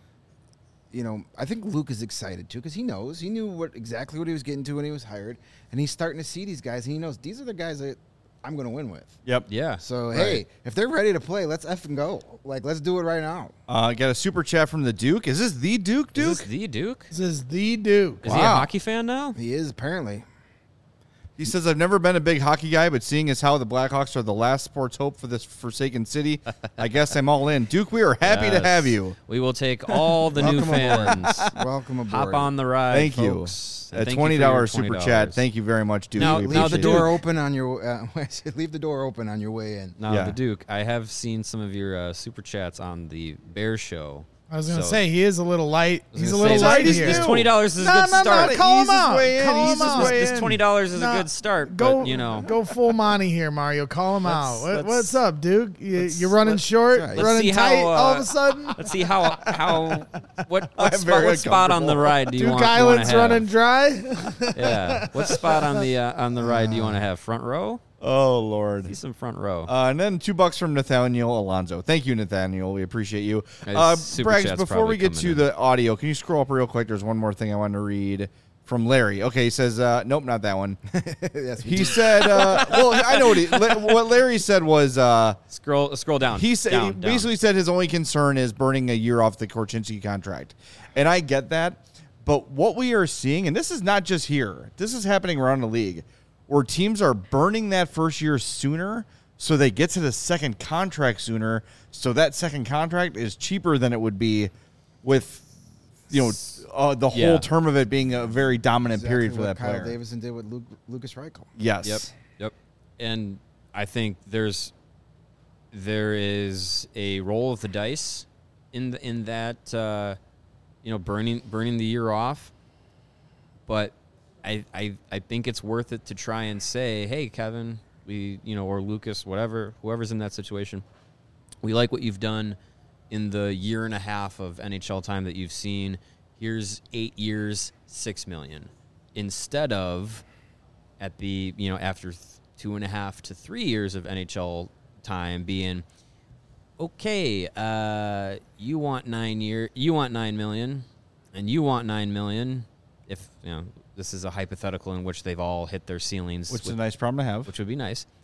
think Luke is excited too because he knew exactly what he was getting to when he was hired, and he's starting to see these guys, and he knows these are the guys that I'm going to win with. Yep. Yeah. So hey, if they're ready to play, let's effing go. Like, let's do it right now. Got a super chat from the Duke. Is this the Duke? Is this the Duke? This is the Duke. Is he a hockey fan now? He is apparently. He says, I've never been a big hockey guy, but seeing as how the Blackhawks are the last sports hope for this forsaken city, I guess I'm all in. Duke, we are happy to have you. We will take all the new fans. Welcome aboard. Hop on the ride, Thank folks. you. And A thank you for your $20 super chat. Thank you very much, Duke. Now We the Leave the appreciate door it. open on your. Leave the door open on your way in. Now, Yeah. the Duke, I have seen some of your super chats on the Bears show. I was going to say, he is a little light. He's a little say light this- here. This $20 is a good start. No, call him Ease his out. way in, Call ease him his out. way This in. $20 is No, a good start, Go, but, go full Monty here, Mario. Call him out. let's- What's up, Duke? You're running short, let's running see tight how, all of a sudden? Let's see what I'm very spot on the uncomfortable. ride do you Duke want to Island's have? running dry. Yeah. What spot on the ride do you want to have? Front row? Oh, Lord. See some front row. And then $2 from Nathaniel Alonso. Thank you, Nathaniel. We appreciate you. Super Braggs, chat's before probably we get coming to in. the audio, can you scroll up real quick? There's one more thing I want to read from Larry. Okay, he says, nope, not that one. Yes, He said, well, I know what Larry said was, Scroll down. he said Down, he basically said his only concern is burning a year off the Korchinski contract. And I get that. But what we are seeing, and this is not just here, this is happening around the league, where teams are burning that first year sooner so they get to the second contract sooner. So that second contract is cheaper than it would be with, the whole term of it being a very dominant period for that Kyle player. Davison did with Lucas Reichel. Yes. Yep. And I think there is a roll of the dice in that burning the year off, but I think it's worth it to try and say, hey, Kevin, or Lucas, whoever's in that situation, we like what you've done in the year and a half of NHL time that you've seen. Here's 8 years, $6 million, instead of at the after 2.5 to 3 years of NHL time being okay. You want $9 million, and you want $9 million. If this is a hypothetical in which they've all hit their ceilings, Which is a nice problem to have. Which would be nice.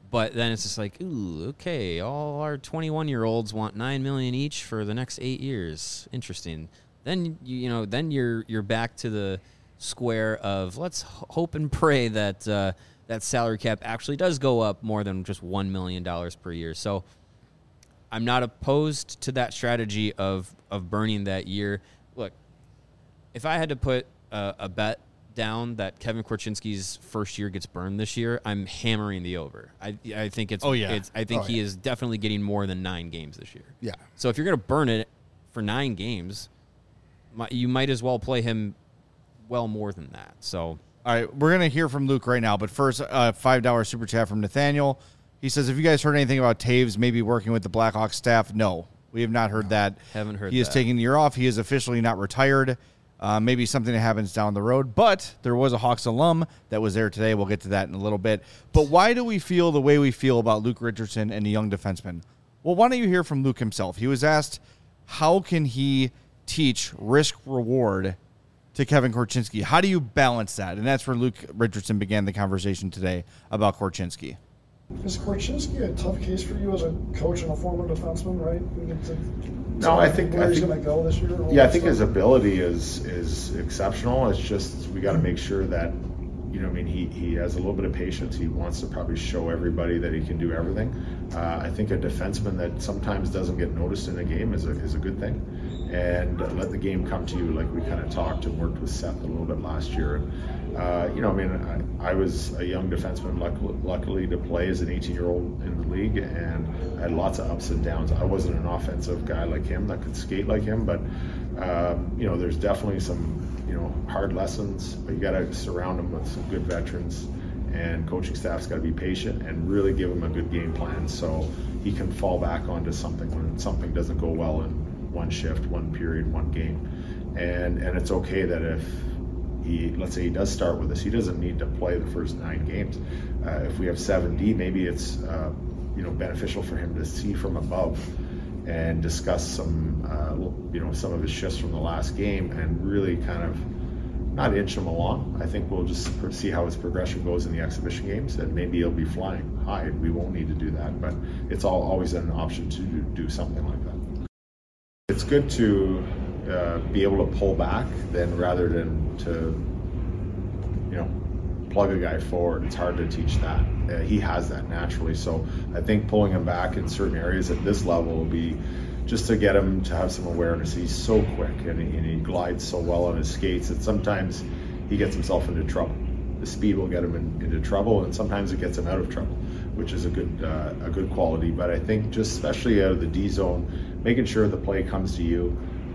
But then it's just like, ooh, okay, all our 21-year-olds want $9 million each for the next 8 years. Interesting. Then then you're back to the square of let's hope and pray that that salary cap actually does go up more than just $1 million per year. So I'm not opposed to that strategy of burning that year. Look, if I had to put a bet down that Kevin Korchinski's first year gets burned this year, I'm hammering the over. I think it's he is definitely getting more than 9 games this year. Yeah. So if you're going to burn it for 9 games, you might as well play him well more than that. So all right, we're going to hear from Luke right now, but first, $5 super chat from Nathaniel. He says, have you guys heard anything about Taves maybe working with the Blackhawks staff? No, we have not heard that. Haven't heard that. He is taking the year off. He is officially not retired. Maybe something that happens down the road, but there was a Hawks alum that was there today. We'll get to that in a little bit. But why do we feel the way we feel about Luke Richardson and the young defenseman? Well, why don't you hear from Luke himself? He was asked, how can he teach risk-reward to Kevin Korchinski? How do you balance that? And that's where Luke Richardson began the conversation today about Korchinski. Is Korchinski a tough case for you as a coach and a former defenseman, right? No, I think where he's going to go this year. Yeah, I think his ability is exceptional. It's just we got to make sure that he has a little bit of patience. He wants to probably show everybody that he can do everything. I think a defenseman that sometimes doesn't get noticed in a game is a good thing, and let the game come to you, like we kind of talked and worked with Seth a little bit last year. And I was a young defenseman, luckily to play as an 18-year-old in the league, and I had lots of ups and downs. I wasn't an offensive guy like him that could skate like him, but there's definitely some hard lessons, but you got to surround him with some good veterans, and coaching staff's got to be patient and really give him a good game plan so he can fall back onto something when something doesn't go well in one shift, one period, one game. And it's okay that if let's say he does start with us, he doesn't need to play the first 9 games. If we have 7D, maybe it's beneficial for him to see from above and discuss some some of his shifts from the last game and really kind of not inch him along. I think we'll just see how his progression goes in the exhibition games, and maybe he'll be flying high. We won't need to do that, but it's always an option to do something like that. It's good to be able to pull back rather than to plug a guy forward. It's hard to teach that. He has that naturally, so I think pulling him back in certain areas at this level will be just to get him to have some awareness. He's so quick and he glides so well on his skates that sometimes he gets himself into trouble. The speed will get him into trouble, and sometimes it gets him out of trouble, which is a good quality. But I think just especially out of the D zone, making sure the play comes to you.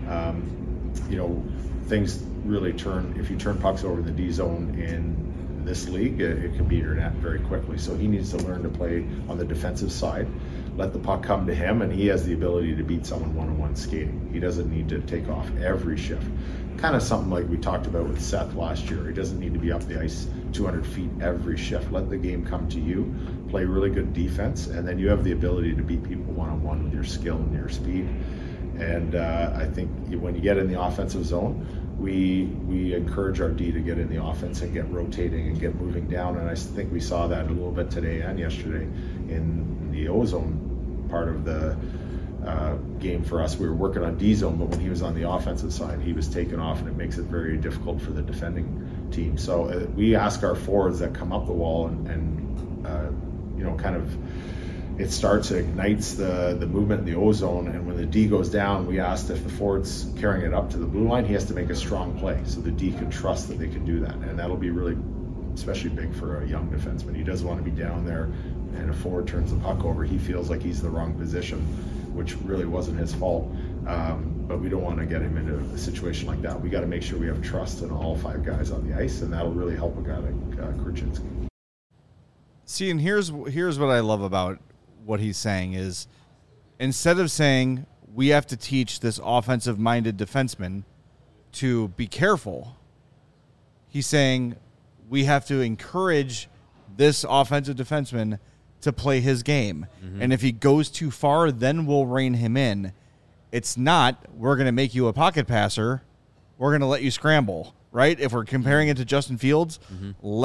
Things really turn. If you turn pucks over in the D zone in this league, it can be your net very quickly. So he needs to learn to play on the defensive side. Let the puck come to him, and he has the ability to beat someone one-on-one skating. He doesn't need to take off every shift. Kind of something like we talked about with Seth last year. He doesn't need to be up the ice 200 feet every shift. Let the game come to you, play really good defense, and then you have the ability to beat people one-on-one with your skill and your speed. And I think when you get in the offensive zone, we encourage our D to get in the offense and get rotating and get moving down. And I think we saw that a little bit today and yesterday in the O-zone part of the game for us. We were working on D-zone, but when he was on the offensive side, he was taken off, and it makes it very difficult for the defending team. So we ask our forwards that come up the wall and kind of it ignites the movement in the O-zone, and when the D goes down, we asked if the forward's carrying it up to the blue line, he has to make a strong play so the D can trust that they can do that, and that'll be really especially big for a young defenseman. He doesn't want to be down there and a forward turns the puck over. He feels like he's the wrong position, which really wasn't his fault, but we don't want to get him into a situation like that. We got to make sure we have trust in all 5 guys on the ice, and that'll really help a guy like Korchinski. See, and here's what I love about what he's saying is, instead of saying we have to teach this offensive-minded defenseman to be careful, he's saying we have to encourage this offensive defenseman to play his game. Mm-hmm. And if he goes too far, then we'll rein him in. It's not, we're going to make you a pocket passer. We're going to let you scramble, right? If we're comparing it to Justin Fields, let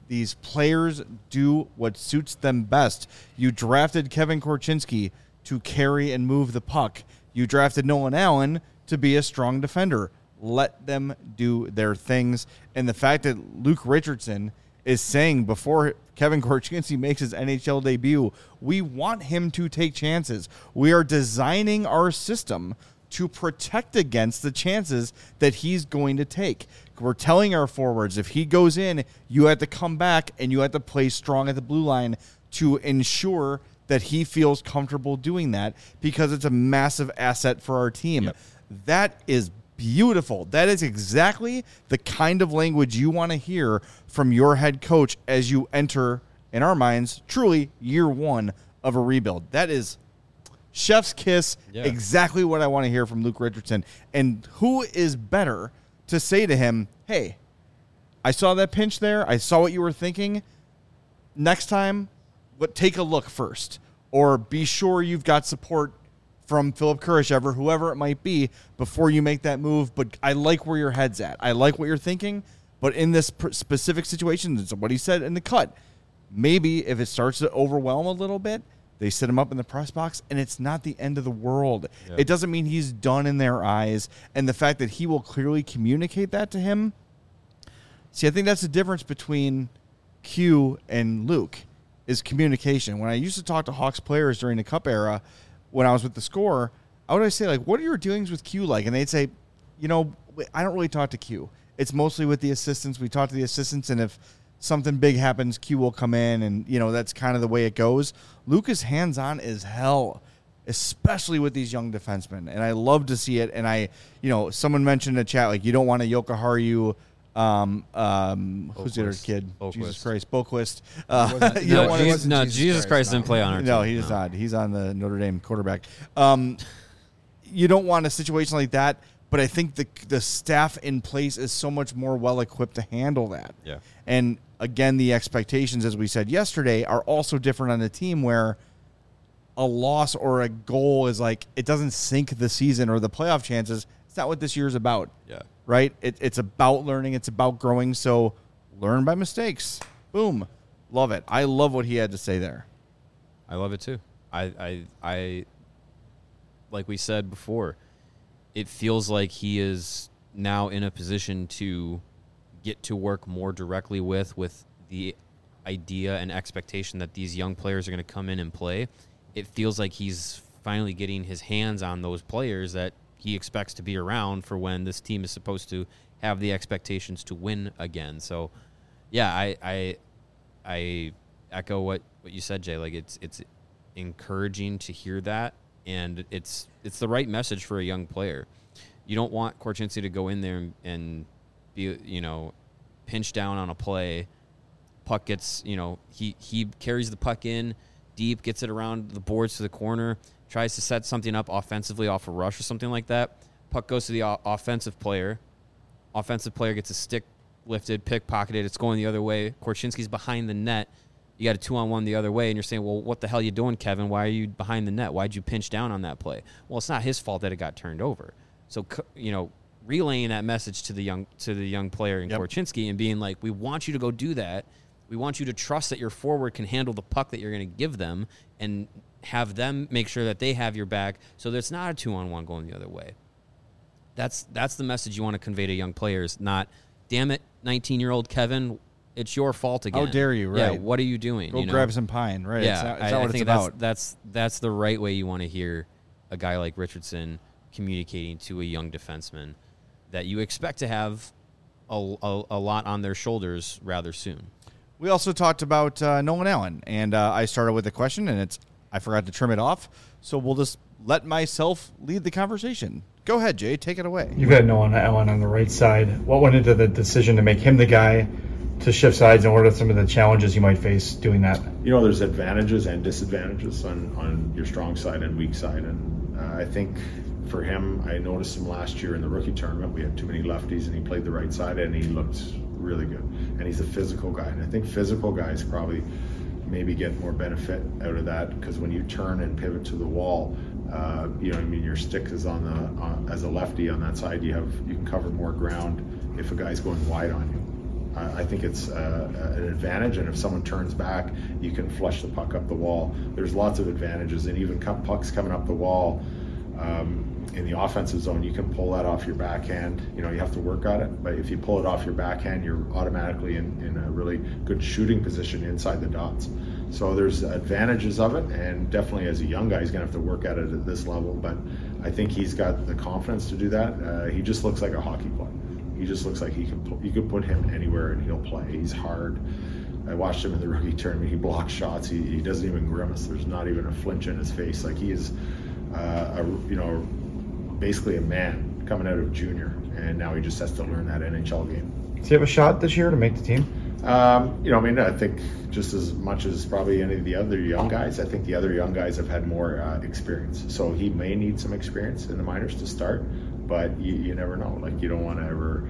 These players do what suits them best. You drafted Kevin Korchinski to carry and move the puck. You drafted Nolan Allen to be a strong defender. Let them do their things. And the fact that Luke Richardson is saying before Kevin Korchinski makes his NHL debut, we want him to take chances. We are designing our system to protect against the chances that he's going to take. We're telling our forwards, if he goes in, you have to come back and you have to play strong at the blue line to ensure that he feels comfortable doing that, because it's a massive asset for our team. Yep. That is beautiful. That is exactly the kind of language you want to hear from your head coach as you enter, in our minds, truly year one of a rebuild. That is chef's kiss, exactly what I want to hear from Luke Richardson. And who is better to say to him, hey, I saw that pinch there. I saw what you were thinking. Next time, take a look first. Or be sure you've got support from Philip Kurashev, whoever it might be, before you make that move. But I like where your head's at. I like what you're thinking. But in this specific situation, it's what he said in the cut. Maybe if it starts to overwhelm a little bit, they sit him up in the press box, and it's not the end of the world. Yeah. It doesn't mean he's done in their eyes. And the fact that he will clearly communicate that to him, see, I think that's the difference between Q and Luke, is communication. When I used to talk to Hawks players during the Cup era, when I was with the Score, I would always say, like, what are your dealings with Q like? And they'd say, you know, I don't really talk to Q. It's mostly with the assistants. We talk to the assistants, and if something big happens, Q will come in, and, you know, that's kind of the way it goes. Luke is hands-on as hell, especially with these young defensemen, and I love to see it. And someone mentioned in the chat, like, you don't want a Jokiharju, who's the other kid? Boquist. Jesus Christ, Boquist. Jesus Christ didn't play on our team. No, he does not. He's on the Notre Dame quarterback. You don't want a situation like that, but I think the staff in place is so much more well-equipped to handle that. Yeah. And, again, the expectations, as we said yesterday, are also different on the team, where a loss or a goal is like, it doesn't sink the season or the playoff chances. It's not what this year is about. Yeah. Right? It's about learning. It's about growing. So learn by mistakes. Boom. Love it. I love what he had to say there. I love it too. I like we said before, it feels like he is now in a position to get to work more directly with the idea and expectation that these young players are going to come in and play. It feels like he's finally getting his hands on those players that he expects to be around for when this team is supposed to have the expectations to win again. So, yeah, I echo what you said, Jay. Like, it's encouraging to hear that, and it's the right message for a young player. You don't want Korchinski to go in there and be, pinch down on a play. Puck gets, he carries the puck in deep, gets it around the boards to the corner, tries to set something up offensively off a rush or something like that. Puck goes to the offensive player. Offensive player gets a stick lifted, pickpocketed. It's going the other way. Korchinski's behind the net. You got a 2-on-1 the other way, and you're saying, well, what the hell are you doing, Kevin? Why are you behind the net? Why'd you pinch down on that play? Well, it's not his fault that it got turned over. So, relaying that message to the young player in Korchinski and being like, we want you to go do that. We want you to trust that your forward can handle the puck that you're going to give them, and have them make sure that they have your back so that it's not a 2-on-1 going the other way. That's the message you want to convey to young players, not, damn it, 19-year-old Kevin, it's your fault again. How dare you, right? Yeah, what are you doing? Go grab some pine, right? Yeah, it's not what it's about. That's the right way you want to hear a guy like Richardson communicating to a young defenseman that you expect to have a lot on their shoulders rather soon. We also talked about Nolan Allen, and I started with a question, and I forgot to trim it off, so we'll just let myself lead the conversation. Go ahead, Jay. Take it away. You've got Nolan Allen on the right side. What went into the decision to make him the guy to shift sides, and what are some of the challenges you might face doing that? There's advantages and disadvantages on your strong side and weak side, and I think for him, I noticed him last year in the rookie tournament. We had too many lefties, and he played the right side, and he looked really good. And he's a physical guy, and I think physical guys probably maybe get more benefit out of that, because when you turn and pivot to the wall, your stick is as a lefty on that side. You can cover more ground if a guy's going wide on you. I think it's an advantage, and if someone turns back, you can flush the puck up the wall. There's lots of advantages, and even pucks coming up the wall in the offensive zone, you can pull that off your backhand. You have to work on it, but if you pull it off your backhand, you're automatically in a really good shooting position inside the dots. So there's advantages of it, and definitely as a young guy, he's going to have to work at it at this level, but I think he's got the confidence to do that. He just looks like a hockey player. He just looks like you could put him anywhere and he'll play. He's hard. I watched him in the rookie tournament. He blocks shots. He doesn't even grimace. There's not even a flinch in his face. Like, he is, basically a man coming out of junior, and now he just has to learn that NHL game. Does he have a shot this year to make the team? I think just as much as probably any of the other young guys, I think the other young guys have had more experience. So he may need some experience in the minors to start, but you never know. Like, you don't want to ever,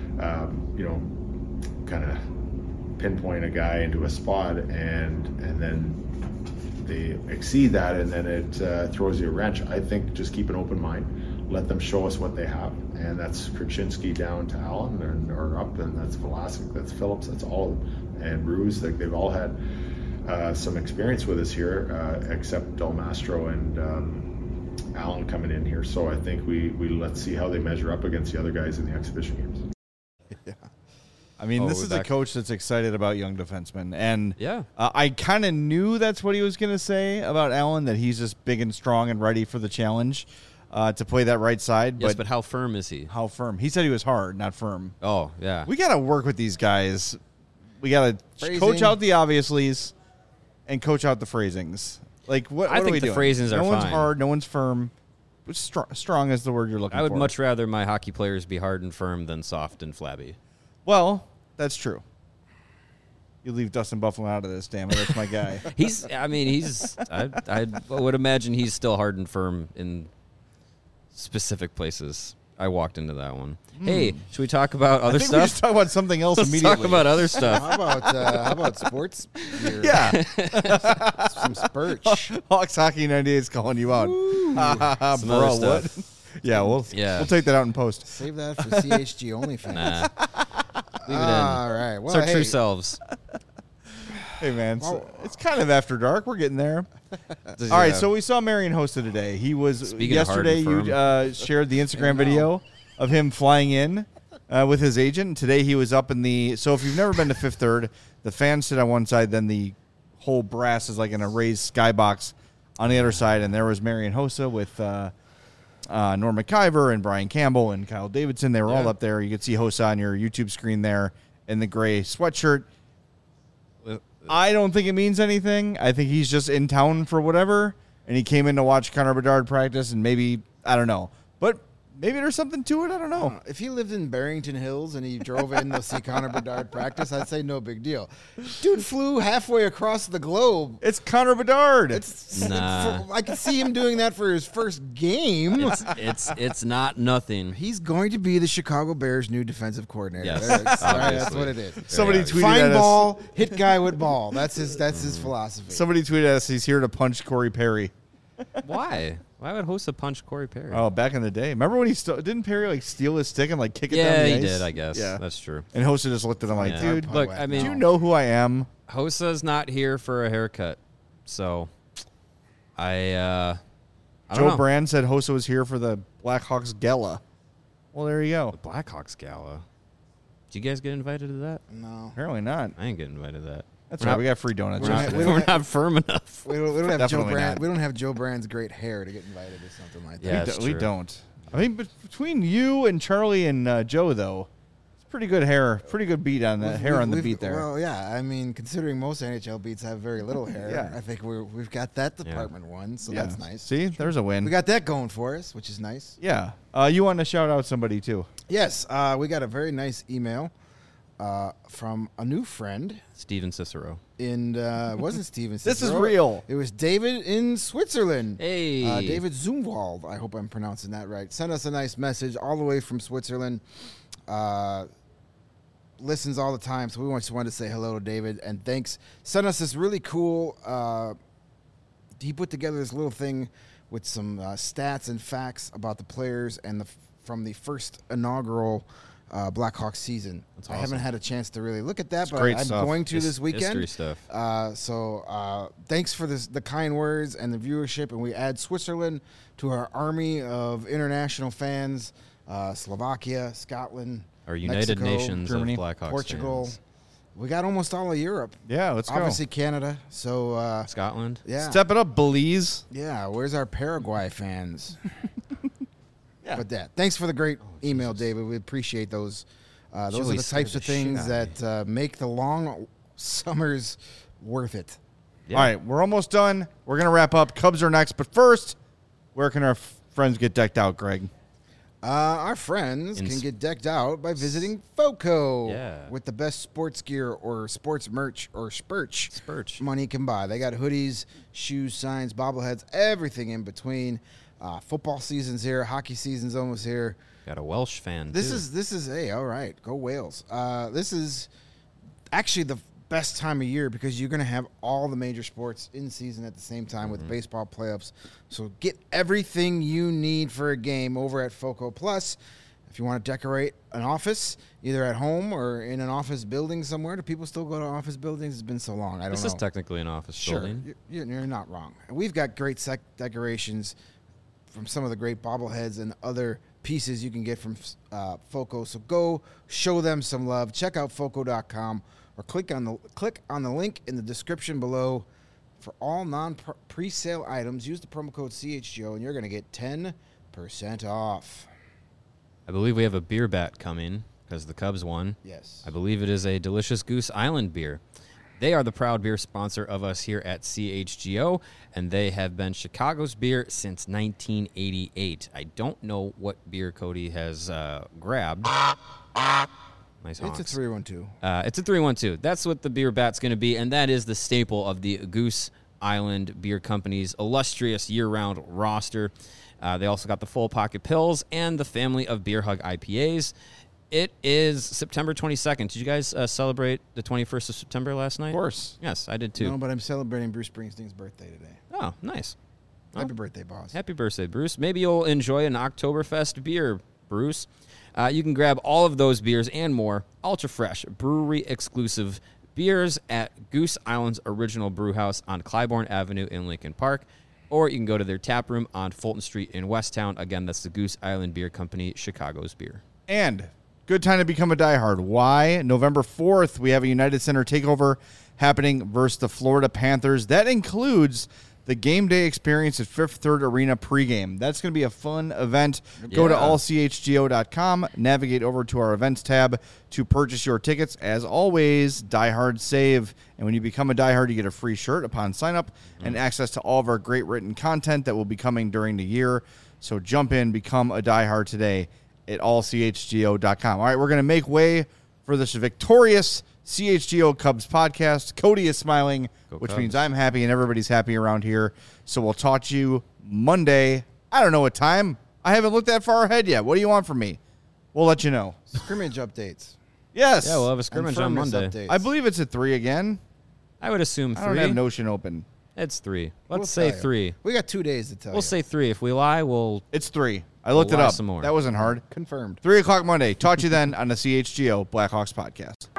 kind of pinpoint a guy into a spot and then they exceed that, and then it throws you a wrench. I think just keep an open mind, let them show us what they have, and that's Krasinski down to Allen or up, and that's Vlasic, that's Phillips, that's all of them, and Ruse. Like, they've all had some experience with us here, except Del Mastro and Allen coming in here. So I think we let's see how they measure up against the other guys in the exhibition games. Yeah. I mean, this is a coach that's excited about young defensemen. And I kind of knew that's what he was going to say about Allen, that he's just big and strong and ready for the challenge to play that right side. Yes, but how firm is he? How firm? He said he was hard, not firm. Oh, yeah. We got to work with these guys. We got to coach out the obviouslies and coach out the phrasings. Like, what I are think we the doing? phrasings are fine. No one's fine. hard. No one's firm. Strong is the word you're looking for. I would much rather my hockey players be hard and firm than soft and flabby. Well, that's true. You leave Dustin Buffalo out of this, damn it. That's my guy. I would imagine he's still hard and firm in specific places. I walked into that one. Hey, should we talk about other stuff? We just talk about something else immediately. Let's talk about other stuff. How about sports? Yeah. Some Spurch. Hawks Hockey 98 is calling you out. Some Bro, other what? stuff. We'll take that out in post. Save that for CHG only fans. Nah. Leave it in. All right. Well, it's our true selves. Hey, man. It's kind of after dark. We're getting there. All right. So we saw Marian Hossa today. He was Speaking yesterday. You shared the Instagram video of him flying in with his agent. Today he was up in the. So if you've never been to Fifth Third, the fans sit on one side, then the whole brass is like in a raised skybox on the other side, and there was Marian Hossa with Norm McIver and Brian Campbell and Kyle Davidson. They were all up there. You could see Hossa on your YouTube screen there in the gray sweatshirt. I don't think it means anything. I think he's just in town for whatever, and he came in to watch Connor Bedard practice, and maybe, I don't know. But maybe there's something to it. I don't know. If he lived in Barrington Hills and he drove in to see Connor Bedard practice, I'd say no big deal. Dude flew halfway across the globe. It's Connor Bedard. I could see him doing that for his first game. It's not nothing. He's going to be the Chicago Bears' new defensive coordinator. Yes, that's what it is. Somebody tweeted Find at ball, hit guy with ball. That's his philosophy. Somebody tweeted at us he's here to punch Corey Perry. Why? Why would Hossa punch Corey Perry? Oh, back in the day. Remember when didn't Perry steal his stick and kick it down the ice? Yeah, he did, I guess. Yeah. That's true. And Hossa just looked at him like, dude, look, I mean, do you know who I am? Hossa's not here for a haircut. So I don't Joe know. Brand said Hossa was here for the Blackhawks Gala. Well, there you go. The Blackhawks Gala. Did you guys get invited to that? No. Apparently not. I ain't getting invited to that. That's right. We got free donuts. We're not firm enough. We don't have Joe Definitely Brand. not. We don't have Joe Brand's great hair to get invited to something like that. Yeah, we don't. I mean, between you and Charlie and Joe, though, it's pretty good hair. Pretty good beat on the hair on the beat there. Well, yeah. I mean, considering most NHL beats have very little hair, Yeah. I think we've got that department won, so that's nice. See, there's a win. We got that going for us, which is nice. Yeah. You want to shout out somebody, too? Yes. We got a very nice email from a new friend. Steven Cicero. And it wasn't Steven Cicero. This is real. It was David in Switzerland. Hey. David Zumwald. I hope I'm pronouncing that right. Sent us a nice message all the way from Switzerland. Listens all the time, so we just wanted to say hello to David. And thanks. Sent us this really cool... he put together this little thing with some stats and facts about the players and from the first inaugural Blackhawks season. I haven't had a chance to really look at that, but great I'm stuff. going to this weekend. History stuff. So thanks for the kind words and the viewership, and we add Switzerland to our army of international fans. Slovakia, Scotland, Our United Mexico, Nations Germany, of Blackhawks Portugal. fans. We got almost all of Europe. Yeah, let's go. Obviously Canada. So Scotland. yeah, Step it up, Belize. yeah. Where's our Paraguay fans? But thanks for the great email, David. We appreciate those. Those Chili are the types scared of the shit things out of that make the long summers worth it. Yeah. All right, we're almost done. We're going to wrap up. Cubs are next. But first, where can our friends get decked out, Greg? Our friends can get decked out by visiting FOCO with the best sports gear or sports merch or spurch money can buy. They got hoodies, shoes, signs, bobbleheads, everything in between. Football season's here. Hockey season's almost here. Got a Welsh fan, This too. is hey, all right, go Wales. This is actually the best time of year because you're going to have all the major sports in season at the same time with baseball playoffs. So get everything you need for a game over at FOCO Plus. If you want to decorate an office, either at home or in an office building somewhere, do people still go to office buildings? It's been so long. I don't know. This is technically an office building. You're not wrong. We've got great decorations from some of the great bobbleheads and other pieces you can get from FOCO. So go show them some love. Check out FOCO.com or click on the link in the description below. For all non-presale items, use the promo code CHGO and you're going to get 10% off. I believe we have a beer bat coming because the Cubs won. Yes. I believe it is a delicious Goose Island beer. They are the proud beer sponsor of us here at CHGO, and they have been Chicago's beer since 1988. I don't know what beer Cody has grabbed. Nice honks. It's a 312. It's a 312. That's what the beer bat's going to be, and that is the staple of the Goose Island Beer Company's illustrious year-round roster. They also got the Full Pocket Pills and the family of Beer Hug IPAs. It is September 22nd. Did you guys celebrate the 21st of September last night? Of course. Yes, I did too. No, but I'm celebrating Bruce Springsteen's birthday today. Oh, nice. Happy birthday, boss. Happy birthday, Bruce. Maybe you'll enjoy an Oktoberfest beer, Bruce. You can grab all of those beers and more, ultra fresh, brewery exclusive beers at Goose Island's original brew house on Clybourne Avenue in Lincoln Park. Or you can go to their tap room on Fulton Street in Westtown. Again, that's the Goose Island Beer Company, Chicago's beer. And good time to become a diehard. Why? November 4th, we have a United Center takeover happening versus the Florida Panthers. That includes the game day experience at Fifth Third Arena pregame. That's going to be a fun event. Go to allchgo.com, navigate over to our events tab to purchase your tickets. As always, diehard save. And when you become a diehard, you get a free shirt upon sign up and access to all of our great written content that will be coming during the year. So jump in, become a diehard today at allchgo.com. All right, we're going to make way for this victorious CHGO Cubs podcast. Cody is smiling, which means I'm happy and everybody's happy around here. So we'll talk to you Monday. I don't know what time. I haven't looked that far ahead yet. What do you want from me? We'll let you know. Scrimmage updates. Yes. Yeah, we'll have a scrimmage on Monday. Updates. I believe it's at 3 again. I would assume 3. I don't have Notion open. It's 3. We'll Let's say tell you. 3. We got 2 days to tell you. We'll say 3. If we lie, It's 3. I looked it lie up. some more. That wasn't hard. Confirmed. 3 o'clock Monday. Talk to you then on the CHGO Blackhawks podcast.